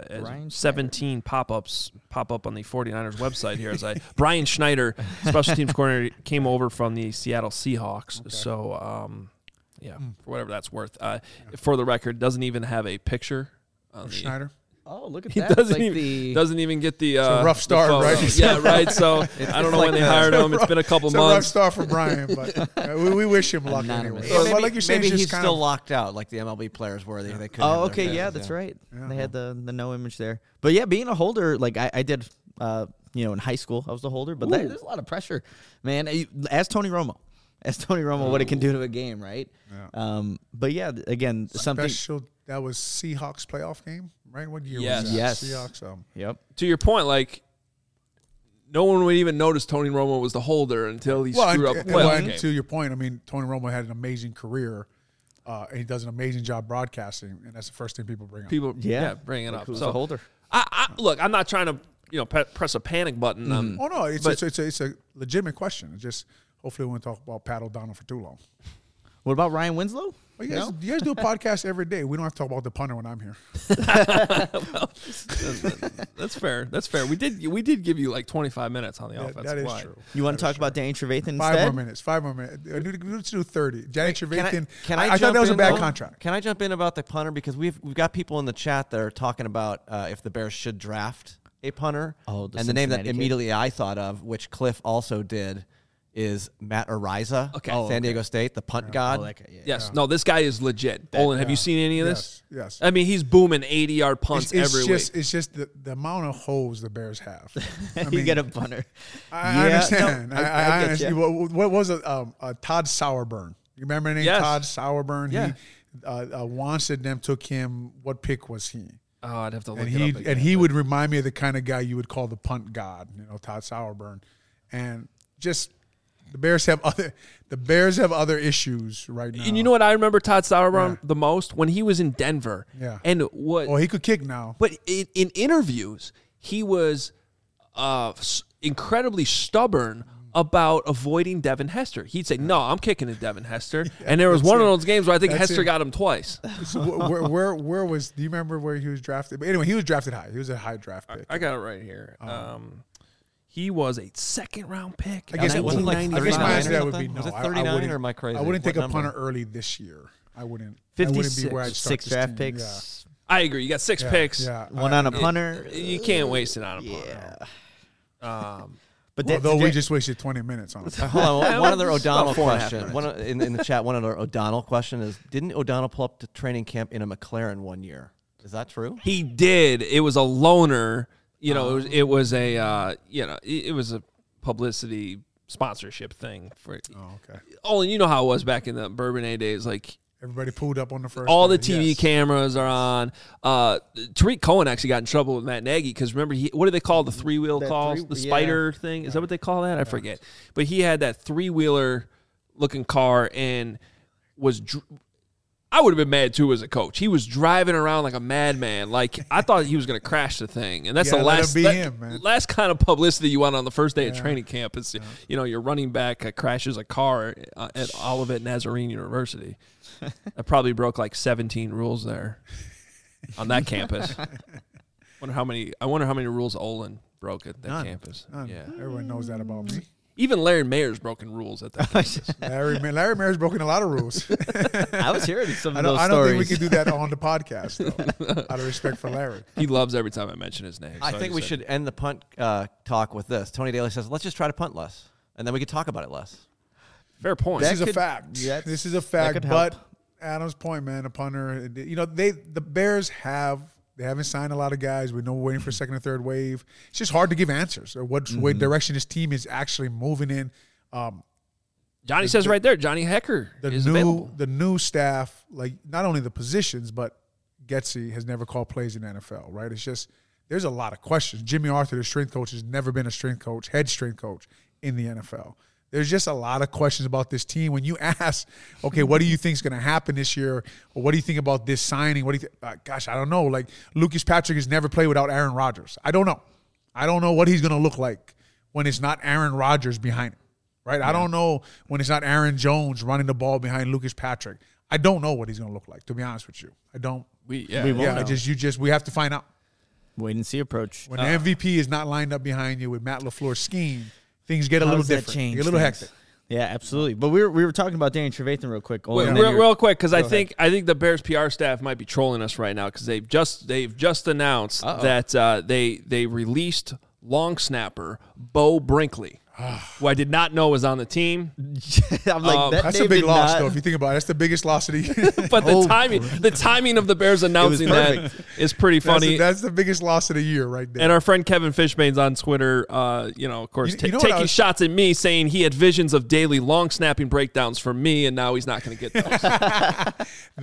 17 pop-ups pop up on the 49ers website here. Brian Schneider, special teams coordinator, came over from the Seattle Seahawks. Okay. So, for whatever that's worth. For the record, doesn't even have a picture of Schneider. Oh, look at he that. Doesn't even get the it's a rough start, right? Yeah, right. So I don't know when they hired him. It's been a couple months. It's a rough start for Brian, but we wish him luck anyway. Maybe, like you're saying, maybe he's still locked out, like the MLB players were. They couldn't. Oh, okay, yeah, that's right. Yeah. They had the no image there. But yeah, being a holder, like I did, in high school, I was the holder. But there's a lot of pressure, man. Ask Tony Romo. What it can do to a game, right? Yeah. But yeah, again, something special. That was Seahawks playoff game, right? What year was that? Yes. Seahawks. Yep. To your point, like, no one would even notice Tony Romo was the holder until he screwed up a playoff game. To your point, I mean, Tony Romo had an amazing career, and he does an amazing job broadcasting, and that's the first thing people bring up. Bring it up. Who's the holder? Look, I'm not trying to press a panic button. Oh no, it's a legitimate question. It's just hopefully we won't talk about Pat O'Donnell for too long. What about Ryan Winslow? Well, you guys do a podcast every day. We don't have to talk about the punter when I'm here. That's fair. That's fair. We did give you like 25 minutes on the offensive line. That is true. You want to talk about Danny Trevathan instead? 5 more minutes. Let's do 30. Danny Trevathan. I thought that was a bad contract. Can I jump in about the punter? Because we've got people in the chat that are talking about if the Bears should draft a punter. Oh, and the name that immediately I thought of, which Cliff also did, is Matt Ariza, San Diego State, the punt god. Yes. No, this guy is legit. Olin, have you seen any of this? Yes. I mean, he's booming 80-yard punts every week. It's just the amount of holes the Bears have. You get a punter. I understand. No, I understand. What was it? Todd Sauerburn. You remember the name Todd Sauerburn? Yeah. Once at them took him. What pick was he? Oh, I'd have to look it up again. And he would remind me of the kind of guy you would call the punt god, Todd Sauerburn. And just the Bears have other issues right now. And you know what I remember Todd Sauerburn the most? When he was in Denver. Yeah. And what? Well, he could kick now. But in interviews, he was incredibly stubborn about avoiding Devin Hester. He'd say, "No, I'm kicking at Devin Hester." And there was one of those games where I think Hester got him twice. So where was? Do you remember where he was drafted? But anyway, he was drafted high. He was a high draft pick. I got it right here. He was a second-round pick. I guess my answer that would be no. Was it 39 or am I crazy? I wouldn't take a punter early this year. I wouldn't. 56. Be where I'd start 6 draft picks. Yeah. I agree. You got 6 picks. Yeah. One on a punter. You can't waste it on a punter. But we just wasted 20 minutes on it. Hold on. One other O'Donnell question. In the chat, one other O'Donnell question is, didn't O'Donnell pull up to training camp in a McLaren one year? Is that true? He did. It was a loaner. It was a publicity sponsorship thing for. Oh, okay. Oh, and you know how it was back in the Bourbonnais days, like. Everybody pulled up on the first. All the TV cameras are on. Tariq Cohen actually got in trouble with Matt Nagy because remember, what do they call the three-wheel calls? The spider thing? Is that what they call that? I forget. But he had that three-wheeler looking car and was. I would have been mad too as a coach. He was driving around like a madman. Like I thought he was going to crash the thing, and that's the last kind of publicity you want on the first day of training camp. Is your running back crashes a car at Olivet Nazarene University. I probably broke like 17 rules there on that campus. I wonder how many rules Olin broke at that campus. None. Yeah, everyone knows that about me. Even Larry Mayer's broken rules at that campus. Larry Mayer's broken a lot of rules. I was hearing some of those stories. I don't think we can do that on the podcast, though, out of respect for Larry. He loves every time I mention his name. I think we should end the punt talk with this. Tony Daly says, let's just try to punt less, and then we could talk about it less. Fair point. This is a fact. This is a fact. But Adam's point, man, a punter, the Bears haven't signed a lot of guys. We know we're waiting for a second or third wave. It's just hard to give answers or what direction this team is actually moving in. Johnny says right there, Johnny Hecker is available. The new staff, like not only the positions, but Getsy has never called plays in the NFL, right? It's just there's a lot of questions. Jimmy Arthur, the strength coach, has never been a head strength coach in the NFL. There's just a lot of questions about this team. When you ask, okay, what do you think is going to happen this year? Or what do you think about this signing? What do you gosh, I don't know. Like, Lucas Patrick has never played without Aaron Rodgers. I don't know. I don't know what he's going to look like when it's not Aaron Rodgers behind him, right? Yeah. I don't know when it's not Aaron Jones running the ball behind Lucas Patrick. I don't know what he's going to look like, to be honest with you. I don't. We won't know. We have to find out. Wait and see approach. When the MVP is not lined up behind you with Matt LaFleur's scheme, things get a little different. Get a little hectic. Yeah, absolutely. But we were talking about Daniel Trevathan real quick. Real quick, because I think the Bears PR staff might be trolling us right now because they've just announced that they released long snapper Bo Brinkley, who I did not know was on the team. I'm like, that's a big loss, though. If you think about it, that's the biggest loss of the year. But the timing of the Bears announcing that is pretty funny. That's the biggest loss of the year, right there. And our friend Kevin Fishbane's on Twitter, of course, taking shots at me, saying he had visions of daily long snapping breakdowns from me, and now he's not going to get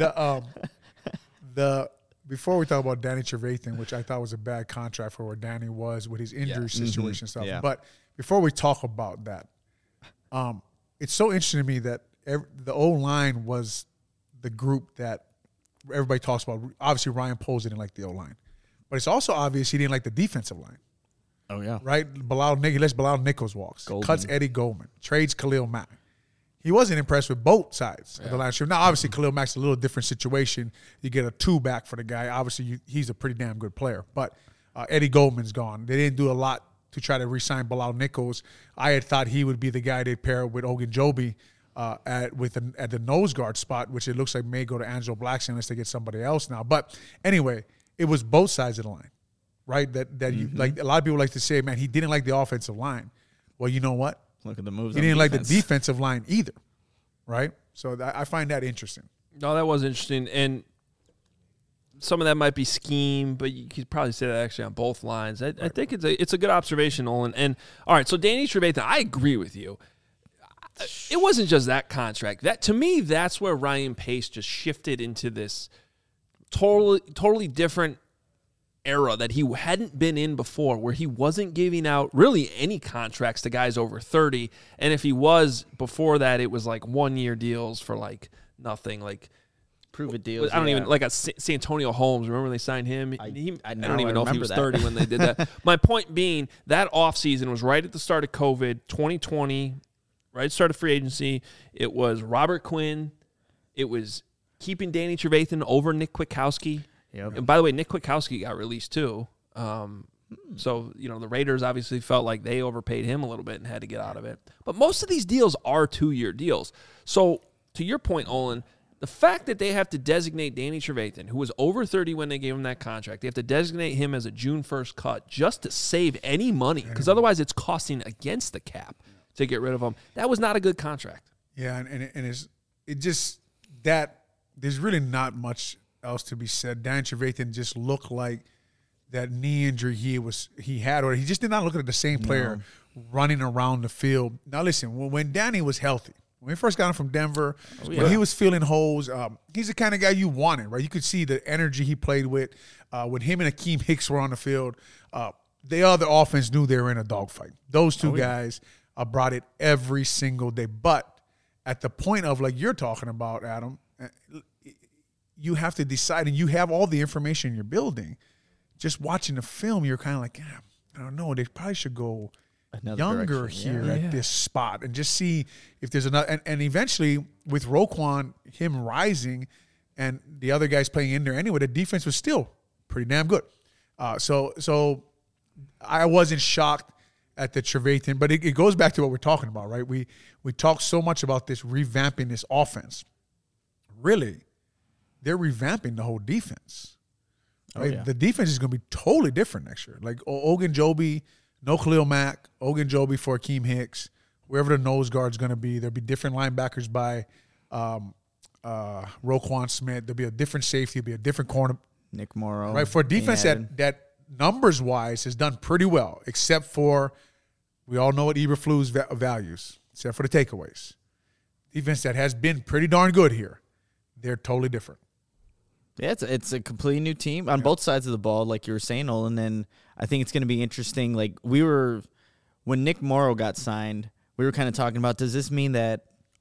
those. Before we talk about Danny Trevathan, which I thought was a bad contract for where Danny was with his injury situation stuff, but before we talk about that, it's so interesting to me that the O-line was the group that everybody talks about. Obviously, Ryan Poles didn't like the O-line. But it's also obvious he didn't like the defensive line. Oh, yeah. Right? He lets Bilal Nichols walk. Cuts Eddie Goldman. Trades Khalil Mack. He wasn't impressed with both sides of the line. Now, obviously, Khalil Mack's a little different situation. You get a 2 back for the guy. Obviously, he's a pretty damn good player. But Eddie Goldman's gone. They didn't do a lot to try to re-sign Bilal Nichols. I had thought he would be the guy they'd pair with Ogunjobi at the nose guard spot, which it looks like may go to Angelo Blackson unless they get somebody else now. But anyway, it was both sides of the line. right? That you like. A lot of people like to say, man, he didn't like the offensive line. Well, you know what? Look at the moves. He didn't like the defensive line either, right? So I find that interesting. No, that was interesting, and some of that might be scheme, but you could probably say that actually on both lines. I think it's a good observation, Olin. And all right, so Danny Trevathan, I agree with you. It wasn't just that contract. That to me, that's where Ryan Pace just shifted into this totally different era that he hadn't been in before, where he wasn't giving out really any contracts to guys over 30. And if he was before that, it was like 1-year deals for like nothing, like prove it deals. I don't even like a Santonio Holmes. Remember when they signed him? I don't even know if he was 30 when they did that. My point being, that offseason was right at the start of COVID, 2020, right at the start of free agency. It was Robert Quinn. It was keeping Danny Trevathan over Nick Kwiatkowski. Yep. And by the way, Nick Kwiatkowski got released too. So, the Raiders obviously felt like they overpaid him a little bit and had to get out of it. But most of these deals are 2-year deals. So, to your point, Olin, the fact that they have to designate Danny Trevathan, who was over 30 when they gave him that contract, they have to designate him as a June 1st cut just to save any money, because otherwise it's costing against the cap to get rid of him. That was not a good contract. Yeah, and it just that there's really not much else to be said. Danny Trevathan just looked like that knee injury he had, or he just did not look like the same player running around the field. Now listen, when Danny was healthy, when we first got him from Denver, when he was feeling holes, he's the kind of guy you wanted, right? You could see the energy he played with. When him and Akeem Hicks were on the field, the other offense knew they were in a dogfight. Those two guys brought it every single day. But at the point of, like you're talking about, Adam, you have to decide, and you have all the information you're building. Just watching the film, you're kind of like, I don't know, they probably should go younger here at this spot and just see if there's another. And eventually, with Roquan, him rising, and the other guys playing in there anyway, the defense was still pretty damn good. So I wasn't shocked at the Trevathan, but it goes back to what we're talking about, right? We talk so much about this revamping this offense. Really, they're revamping the whole defense. Right? The defense is going to be totally different next year. Like Ogunjobi, no Khalil Mack, Ogunjobi for Akeem Hicks, whoever the nose guard's going to be. There'll be different linebackers by Roquan Smith. There'll be a different safety. There'll be a different corner. Nick Morrow. Right, for a defense that numbers-wise has done pretty well, except for, we all know what Eberflus values, except for the takeaways. Defense that has been pretty darn good here. They're totally different. Yeah, it's a completely new team on both sides of the ball, like you were saying, Olin. And I think it's going to be interesting. Like when Nick Morrow got signed, we were kind of talking about, does this mean that,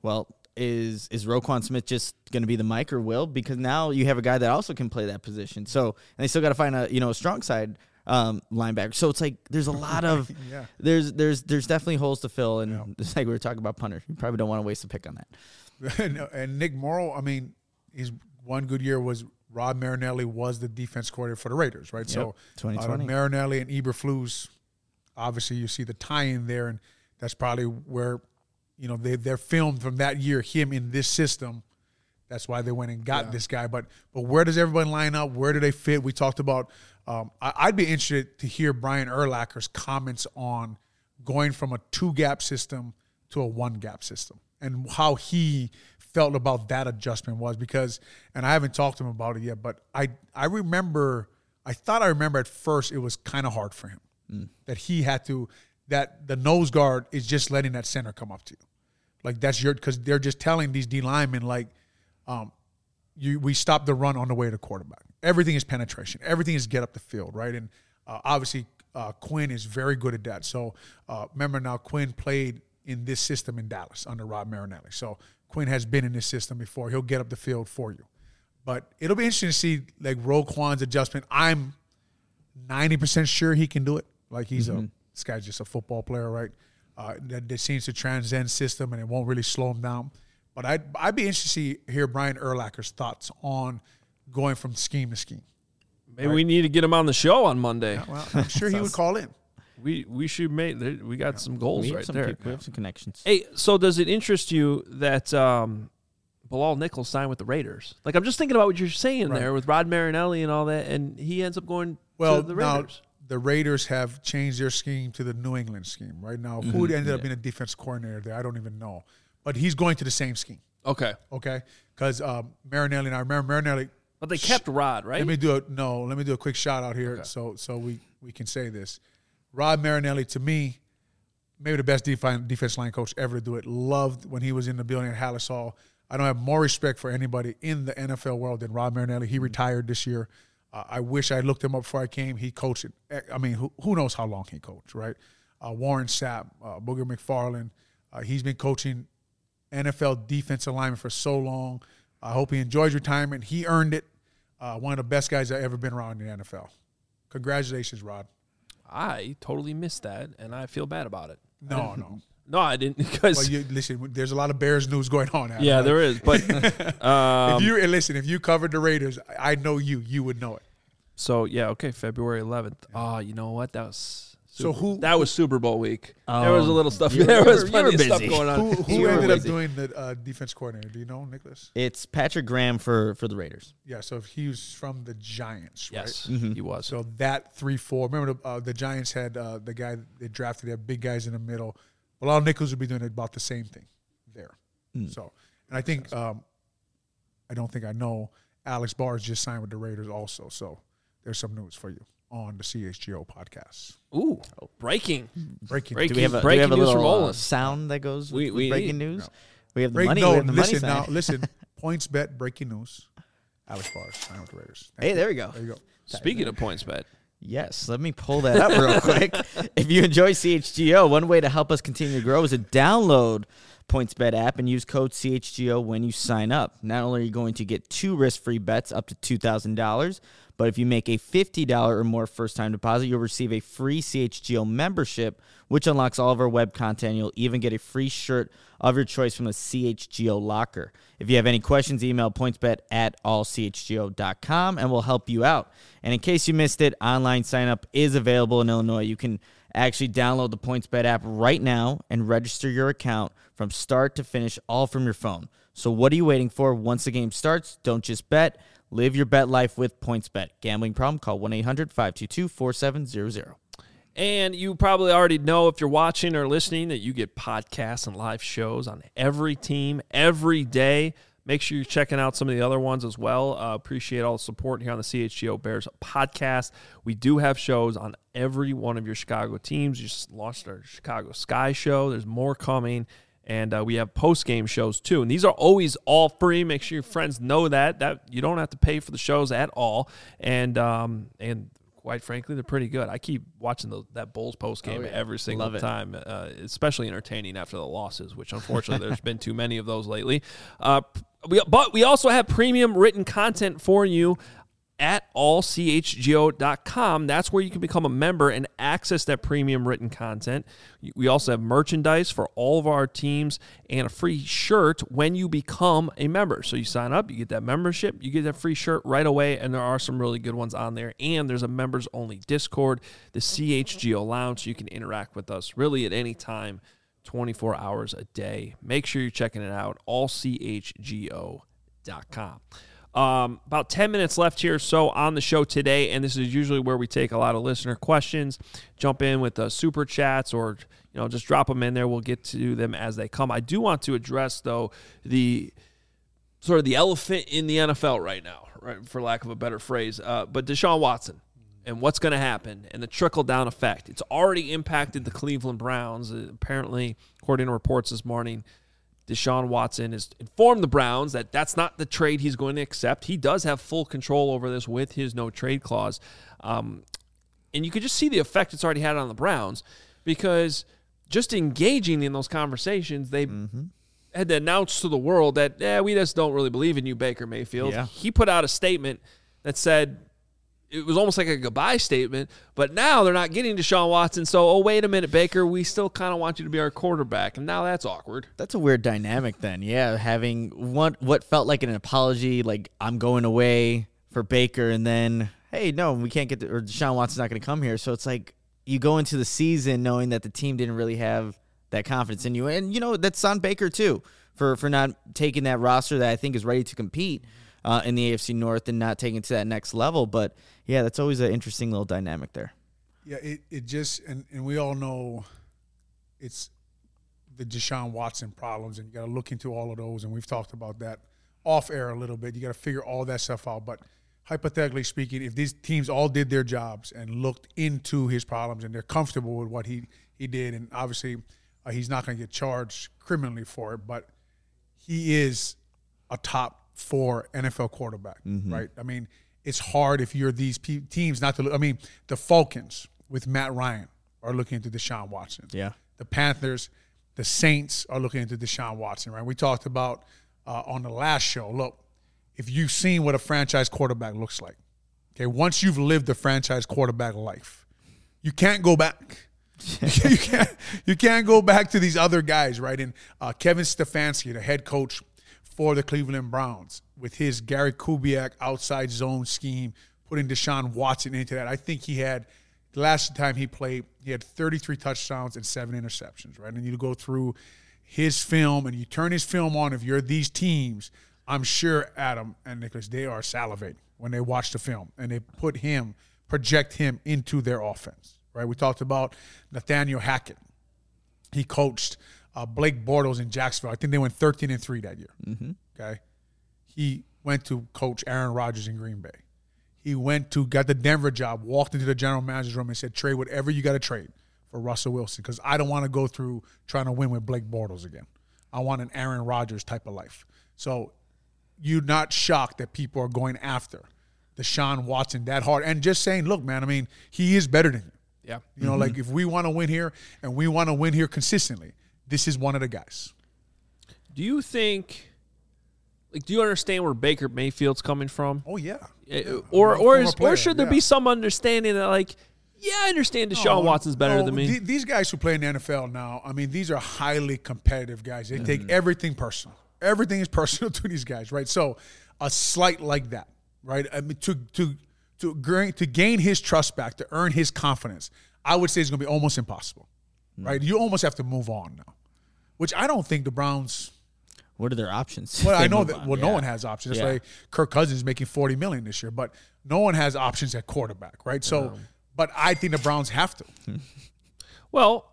is Roquan Smith just going to be the Mike or Will? Because now you have a guy that also can play that position. So, and they still got to find a strong side linebacker. So it's like there's a lot of there's definitely holes to fill, and it's like we were talking about punter. You probably don't want to waste a pick on that. And Nick Morrow, I mean, his one good year was Rod Marinelli was the defense coordinator for the Raiders, right? So 2020. Marinelli and Eberflus, obviously you see the tie-in there, and that's probably where they're filmed from that year, him in this system. That's why they went and got this guy. But where does everybody line up? Where do they fit? We talked about I'd be interested to hear Brian Urlacher's comments on going from a 2-gap system to a 1-gap system and how he felt about that adjustment was, because, and I haven't talked to him about it yet, but I thought I remember at first it was kind of hard for him that he had to, that the nose guard is just letting that center come up to you. Like that's because they're just telling these D linemen like, we stop the run on the way to quarterback. Everything is penetration. Everything is get up the field, right? And obviously Quinn is very good at that. So remember now, Quinn played in this system in Dallas under Rod Marinelli. So Quinn has been in this system before. He'll get up the field for you. But it'll be interesting to see like Roquan's adjustment. I'm 90% sure he can do it. Like this guy's just a football player, right? That seems to transcend system, and it won't really slow him down. But I'd be interested to hear Brian Urlacher's thoughts on going from scheme to scheme. Maybe we need to get him on the show on Monday. Yeah, well, I'm sure he would call in. We should make. We got some goals right there. We have some connections. Hey, so does it interest you that Bilal Nichols signed with the Raiders? Like, I'm just thinking about what you're saying there with Rod Marinelli and all that, and he ends up going to the Raiders. Now, the Raiders have changed their scheme to the New England scheme right now. Mm-hmm. Who ended up being a defense coordinator there, I don't even know. But he's going to the same scheme. Okay. Because Marinelli, and I remember Marinelli. But they kept Rod, right? Let me do a quick shout out here so we can say this. Rod Marinelli, to me, maybe the best defense line coach ever to do it. Loved when he was in the building at Hallis Hall. I don't have more respect for anybody in the NFL world than Rod Marinelli. He retired this year. I wish I looked him up before I came. He coached it. I mean, who knows how long he coached, right? Warren Sapp, Booger McFarland. He's been coaching NFL defensive linemen for so long. I hope he enjoys retirement. He earned it. One of the best guys I've ever been around in the NFL. Congratulations, Rod. I totally missed that, and I feel bad about it. No, I didn't because. Well, listen, there's a lot of Bears news going on. Adam, yeah, right? there is. But if you covered the Raiders, I know you would know it. So yeah, okay, February 11th. Oh, you know what? That was that was Super Bowl week. There was a little stuff. There was plenty of stuff going on. Who ended up doing the defense coordinator? Do you know, Nicholas? It's Patrick Graham for the Raiders. Yeah, so he was from the Giants, right? Yes, he was. So that 3-4. Remember the Giants had the guy they drafted. They had big guys in the middle. Bilal Nichols would be doing about the same thing there. So, and I think I don't think I know Alex Barrs just signed with the Raiders also. So there's some news for you on the CHGO podcast. Ooh, breaking. Do we have a little sound that goes with breaking news? No. We have the money. No, listen. PointsBet breaking news. Alex Barrs signed with the Raiders. There we go. There you go. Speaking of PointsBet. Yes, let me pull that up real quick. If you enjoy CHGO, one way to help us continue to grow is to download PointsBet app and use code CHGO when you sign up. Not only are you going to get 2 risk-free bets up to $2,000, but if you make a $50 or more first-time deposit, you'll receive a free CHGO membership, which unlocks all of our web content. You'll even get a free shirt of your choice from the CHGO locker. If you have any questions, email pointsbet@allchgo.com, and we'll help you out. And in case you missed it, online sign-up is available in Illinois. You can actually download the PointsBet app right now and register your account from start to finish, all from your phone. So what are you waiting for? Once the game starts, don't just bet. Live your bet life with PointsBet. Gambling problem? Call 1-800-522-4700. And you probably already know, if you're watching or listening, that you get podcasts and live shows on every team every day. Make sure you're checking out some of the other ones as well. Appreciate all the support here on the CHGO Bears podcast. We do have shows on every one of your Chicago teams. You just launched our Chicago Sky show. There's more coming. And we have post-game shows, too. And these are always all free. Make sure your friends know that you don't have to pay for the shows at all. And quite frankly, they're pretty good. I keep watching that Bulls post-game every single time, especially entertaining after the losses, which unfortunately there's been too many of those lately. But we also have premium written content for you at allchgo.com. That's where you can become a member and access that premium written content. We also have merchandise for all of our teams and a free shirt when you become a member. So you sign up, you get that membership, you get that free shirt right away, and there are some really good ones on there. And there's a members-only Discord, the CHGO Lounge, so you can interact with us really at any time, 24 hours a day. Make sure you're checking it out, allchgo.com. About 10 minutes left here so on the show today, and this is usually where we take a lot of listener questions, jump in with super chats, or just drop them in there. We'll get to them as they come. I do want to address, though, the sort of the elephant in the NFL right now, right, for lack of a better phrase, but Deshaun Watson and what's going to happen and the trickle-down effect. It's already impacted the Cleveland Browns. Apparently, according to reports this morning, Deshaun Watson has informed the Browns that that's not the trade he's going to accept. He does have full control over this with his no-trade clause. And you could just see the effect it's already had on the Browns, because just engaging in those conversations, they had to announce to the world that, we just don't really believe in you, Baker Mayfield. Yeah. He put out a statement that said, it was almost like a goodbye statement, but now they're not getting Deshaun Watson, so, wait a minute, Baker, we still kind of want you to be our quarterback, and now that's awkward. That's a weird dynamic then, having what felt like an apology, like I'm going away for Baker, and then, hey, no, we can't get or Deshaun Watson's not going to come here, so it's like you go into the season knowing that the team didn't really have that confidence in you, and, that's on Baker too, for not taking that roster that I think is ready to compete in the AFC North and not taking it to that next level, but yeah, that's always an interesting little dynamic there. Yeah, it just and we all know it's the Deshaun Watson problems, and you got to look into all of those, and we've talked about that off air a little bit. You got to figure all that stuff out. But hypothetically speaking, if these teams all did their jobs and looked into his problems and they're comfortable with what he did, and obviously he's not going to get charged criminally for it, but he is a top 4 NFL quarterback, right? I mean, it's hard if you're these teams not to look. I mean, the Falcons with Matt Ryan are looking into Deshaun Watson. Yeah. The Panthers, the Saints are looking into Deshaun Watson, right? We talked about on the last show, look, if you've seen what a franchise quarterback looks like, okay, once you've lived the franchise quarterback life, you can't go back. you can't go back to these other guys, right? And Kevin Stefanski, the head coach for the Cleveland Browns, with his Gary Kubiak outside zone scheme, putting Deshaun Watson into that. I think he had, the last time he played, he had 33 touchdowns and 7 interceptions, right? And you go through his film and you turn his film on, if you're these teams, I'm sure Adam and Nicholas, they are salivating when they watch the film and they project him into their offense, right? We talked about Nathaniel Hackett. He coached Blake Bortles in Jacksonville. I think they went 13-3 that year, okay? He went to coach Aaron Rodgers in Green Bay. He got the Denver job, walked into the general manager's room and said, trade whatever you got to trade for Russell Wilson, because I don't want to go through trying to win with Blake Bortles again. I want an Aaron Rodgers type of life. So you're not shocked that people are going after Deshaun Watson that hard and just saying, look, man, I mean, he is better than you. Yeah. You know, like if we want to win here and we want to win here consistently, this is one of the guys. Do you think, do you understand where Baker Mayfield's coming from? Oh, yeah. Or should there be some understanding that, like, yeah, I understand Deshaun Watson's better than me? These guys who play in the NFL now, I mean, these are highly competitive guys. They take everything personal. Everything is personal to these guys, right? So a slight like that, right? I mean, to gain his trust back, to earn his confidence, I would say it's going to be almost impossible, right? You almost have to move on now, which I don't think the Browns. What are their options? Well, I know that. Well, no one has options. That's why Kirk Cousins is making $40 million this year, but no one has options at quarterback, right? So, but I think the Browns have to. Well,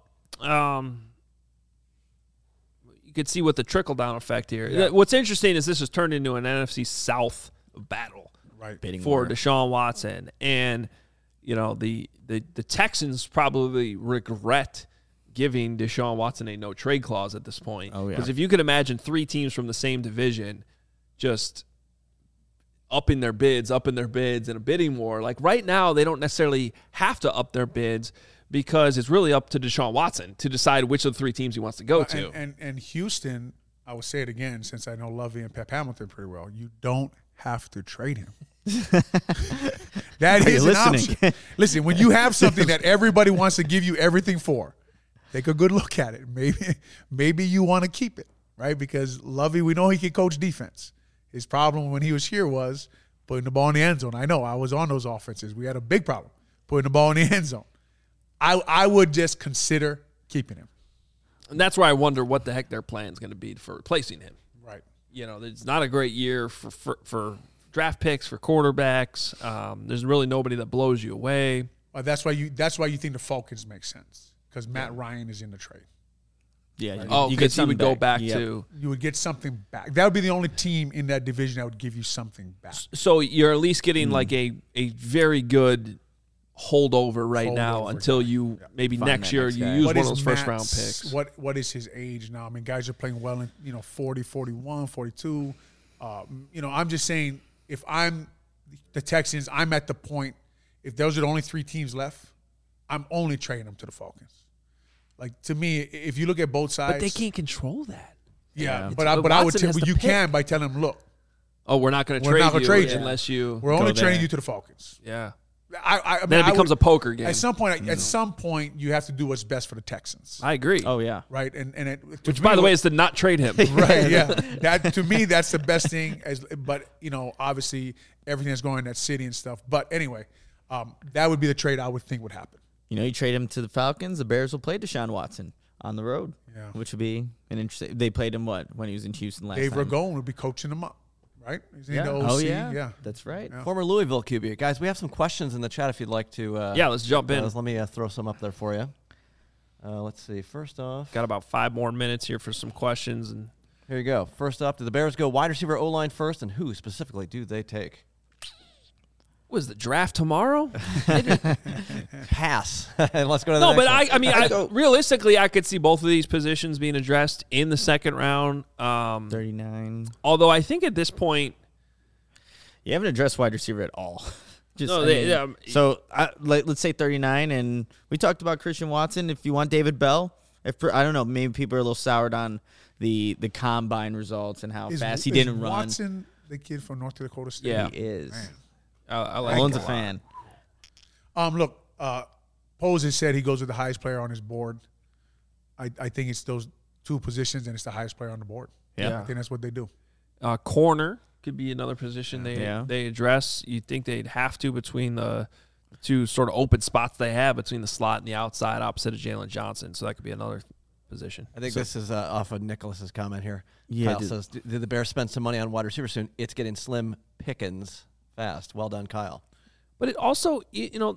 you could see what the trickle down effect here. Yeah. What's interesting is this has turned into an NFC South battle, right? For Deshaun Watson, and you know the Texans probably regret giving Deshaun Watson a no-trade clause at this point. Oh, yeah. Because if you could imagine 3 teams from the same division just upping their bids in a bidding war. Like right now, they don't necessarily have to up their bids because it's really up to Deshaun Watson to decide which of the 3 teams he wants to go to. And Houston, I will say it again since I know Lovey and Pep Hamilton pretty well, you don't have to trade him. That is an option. Listen, when you have something that everybody wants to give you everything for, take a good look at it. Maybe you want to keep it, right? Because Lovey, we know he can coach defense. His problem when he was here was putting the ball in the end zone. I know. I was on those offenses. We had a big problem putting the ball in the end zone. I would just consider keeping him. And that's where I wonder what the heck their plan is going to be for replacing him. Right. You know, it's not a great year for draft picks, for quarterbacks. There's really nobody that blows you away. That's why you think the Falcons make sense. Because Matt Ryan is in the trade. Yeah. Right? Because he would go back to. You would get something back. That would be the only team in that division that would give you something back. So you're at least getting like a very good holdover now until you maybe next year you use one of those first-round picks. What is his age now? I mean, guys are playing well in 40, 41, 42. I'm just saying if I'm the Texans, I'm at the point, if those are the only 3 teams left, I'm only trading them to the Falcons. Like, to me, if you look at both sides. But they can't control that. Yeah, but I would tell you can by telling them, look. Oh, we're not going to trade you unless you. We're only trading you to the Falcons. Yeah. I mean, then it becomes a poker game. At some point, you have to do what's best for the Texans. I agree. Oh, yeah. Right? Which, by the way, is to not trade him. Right, yeah. To me, that's the best thing. But, obviously, everything that's going in that city and stuff. But anyway, that would be the trade I would think would happen. You trade him to the Falcons, the Bears will play Deshaun Watson on the road, yeah, which would be an interesting. They played him when he was in Houston last time. Dave Ragone would be coaching him up. right? Isn't he the OC? Oh, yeah. That's right. Yeah. Former Louisville QB. Guys, we have some questions in the chat if you'd like to. Let's jump in. Let me throw some up there for you. Let's see. First off. Got about 5 more minutes here for some questions. And here you go. First up, do the Bears go wide receiver, O-line first, and who specifically do they take? Was the draft tomorrow? Pass. And let's go to the next one. Realistically, I could see both of these positions being addressed in the second round. 39. Although I think at this point, you haven't addressed wide receiver at all. So let's say 39, and we talked about Christian Watson. If you want David Bell, I don't know, maybe people are a little soured on the combine results and how fast he didn't run. Watson, the kid from North Dakota State? Yeah, he is. Man. I like Owen's a fan. Look, Pose has said he goes with the highest player on his board. I think it's those 2 positions, and it's the highest player on the board. Yeah. I think that's what they do. Corner could be another position they address. You'd think they'd have to between the 2 sort of open spots they have between the slot and the outside opposite of Jalen Johnson. So that could be another position. I think this is off of Nicholas's comment here. Yeah, Kyle says, did the Bears spend some money on wide receiver soon? It's getting slim pickings fast. Well done, Kyle. But it also, it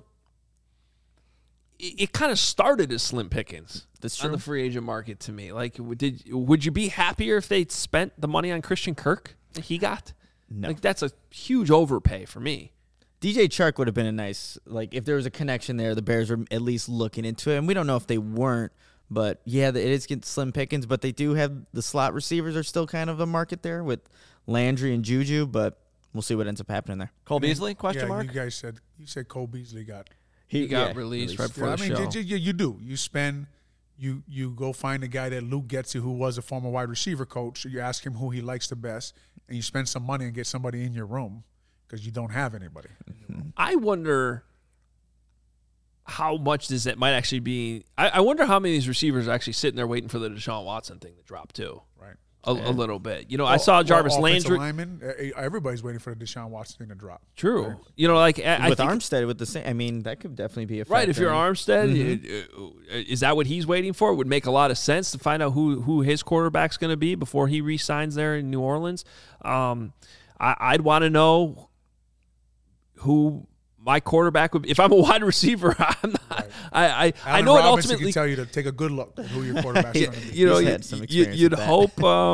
kind of started as slim pickings. That's true. On the free agent market to me. Like, would you be happier if they'd spent the money on Christian Kirk that he got? No. Like, that's a huge overpay for me. DJ Chark would have been a nice, if there was a connection there, the Bears were at least looking into it. And we don't know if they weren't, but yeah, it is getting slim pickings, but they do have the slot receivers are still kind of a market there with Landry and Juju, but we'll see what ends up happening there. Cole Beasley, question mark? You said Cole Beasley got. He got released right before the show. You do. You spend, you go find a guy that Luke Getsy, who was a former wide receiver coach. You ask him who he likes the best, and you spend some money and get somebody in your room because you don't have anybody. I wonder how much it might actually be. I wonder how many of these receivers are actually sitting there waiting for the Deshaun Watson thing to drop too. Right. A little bit. I saw Jarvis Landry. Lineman, everybody's waiting for the Deshaun Watson thing to drop. True. with Right. Armstead with the same. That could definitely be a factor. Right. If you're Armstead, is that what he's waiting for? It would make a lot of sense to find out who his quarterback's going to be before he re-signs there in New Orleans. I'd want to know who my quarterback would be. If I'm a wide receiver, I'm not. Right. I know Robinson it ultimately can tell you to take a good look at who your quarterback's going to be. You'd hope.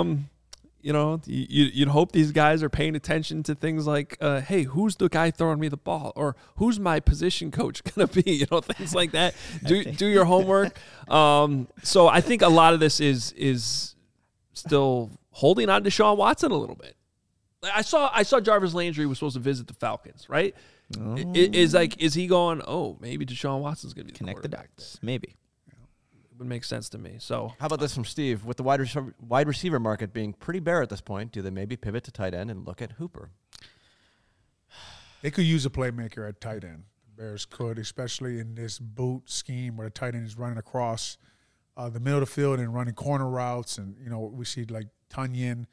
You'd hope these guys are paying attention to things like, hey, who's the guy throwing me the ball, or who's my position coach going to be? Things like that. Do your homework. So I think a lot of this is still holding on to Deshaun Watson a little bit. I saw Jarvis Landry was supposed to visit the Falcons, right? Oh. Is he going, maybe Deshaun Watson's going to be the connect the quarterback dots? Maybe. It would make sense to me. So how about this from Steve? With the wide receiver market being pretty bare at this point, do they maybe pivot to tight end and look at Hooper? They could use a playmaker at tight end. The Bears could, especially in this boot scheme where the tight end is running across the middle of the field and running corner routes. And, we see like Tunyon,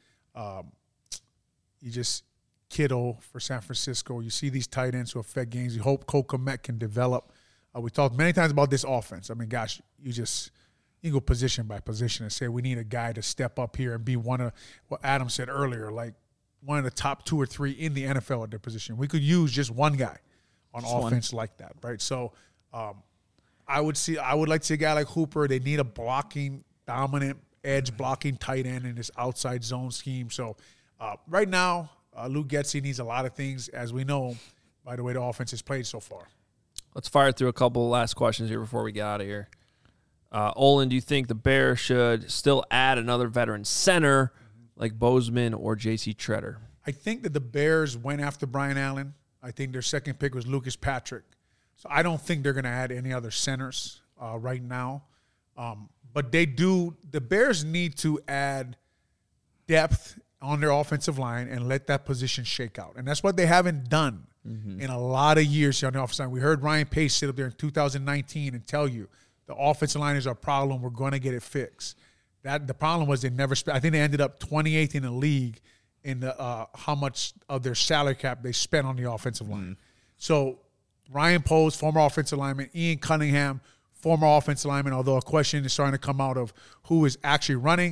Kittle for San Francisco. You see these tight ends who affect games. You hope Cole Kmet can develop. We talked many times about this offense. I mean, gosh, you go position by position and say we need a guy to step up here and be one of what Adam said earlier, like one of the top 2 or 3 in the NFL at their position. We could use just one guy on offense like that, right? So I would like to see a guy like Hooper. They need a blocking, dominant, edge blocking tight end in this outside zone scheme. So right now, Luke Getsy needs a lot of things, as we know, by the way the offense has played so far. Let's fire through a couple of last questions here before we get out of here. Olin, do you think the Bears should still add another veteran center like Bozeman or J.C. Tretter? I think that the Bears went after Brian Allen. I think their second pick was Lucas Patrick. So I don't think they're going to add any other centers right now. But the Bears need to add depth on their offensive line and let that position shake out. And that's what they haven't done in a lot of years here on the offensive line. We heard Ryan Pace sit up there in 2019 and tell you the offensive line is our problem. We're going to get it fixed. The problem was they never spent. I think they ended up 28th in the league in the how much of their salary cap they spent on the offensive line. So Ryan Poles, former offensive lineman, Ian Cunningham, former offensive lineman, although a question is starting to come out of who is actually running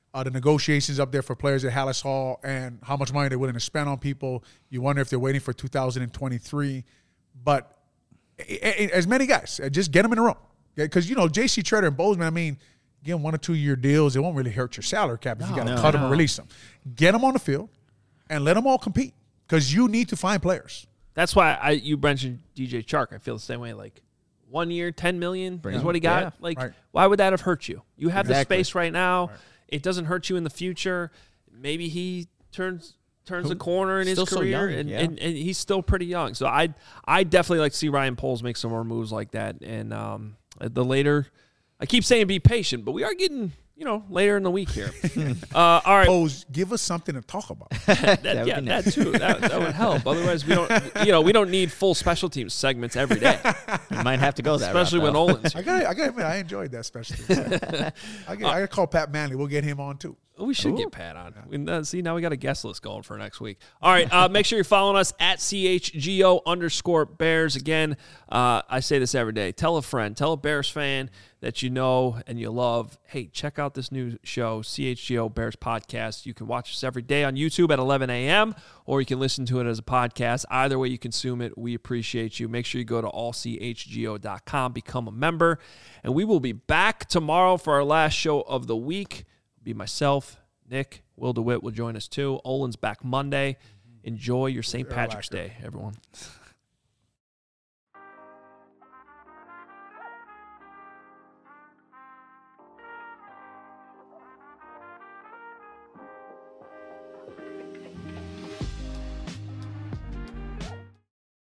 the negotiations up there for players at Hallis Hall and how much money they're willing to spend on people. You wonder if they're waiting for 2023. But as many guys, just get them in a room. Because, J.C. Tretter and Bozeman, I mean, again, 1 or 2 year deals, it won't really hurt your salary cap if you got to cut them and release them. Get them on the field and let them all compete because you need to find players. That's why you mentioned DJ Chark. I feel the same way. Like 1 year, $10 million is what he got. Why would that have hurt you? You have the space right now. Right. It doesn't hurt you in the future. Maybe he turns a corner in his career, and he's still pretty young. So I definitely like to see Ryan Poles make some more moves like that. And the later, I keep saying be patient, but we are getting later in the week here. All right, Poles, give us something to talk about. that too. That would help. Otherwise, we don't need full special teams segments every day. You might have to go that especially route, when Olin's. I gotta admit, I enjoyed that special teams. I gotta call Pat Manley. We'll get him on too. We should get Pat on. See, now we got a guest list going for next week. All right, make sure you're following us at CHGO_Bears. Again, I say this every day. Tell a friend, tell a Bears fan that you know and you love. Hey, check out this new show, CHGO Bears Podcast. You can watch us every day on YouTube at 11 a.m., or you can listen to it as a podcast. Either way you consume it, we appreciate you. Make sure you go to allchgo.com, become a member, and we will be back tomorrow for our last show of the week. Be myself, Nick, Will DeWitt will join us too. Olin's back Monday. Enjoy your St. Patrick's Day, everyone.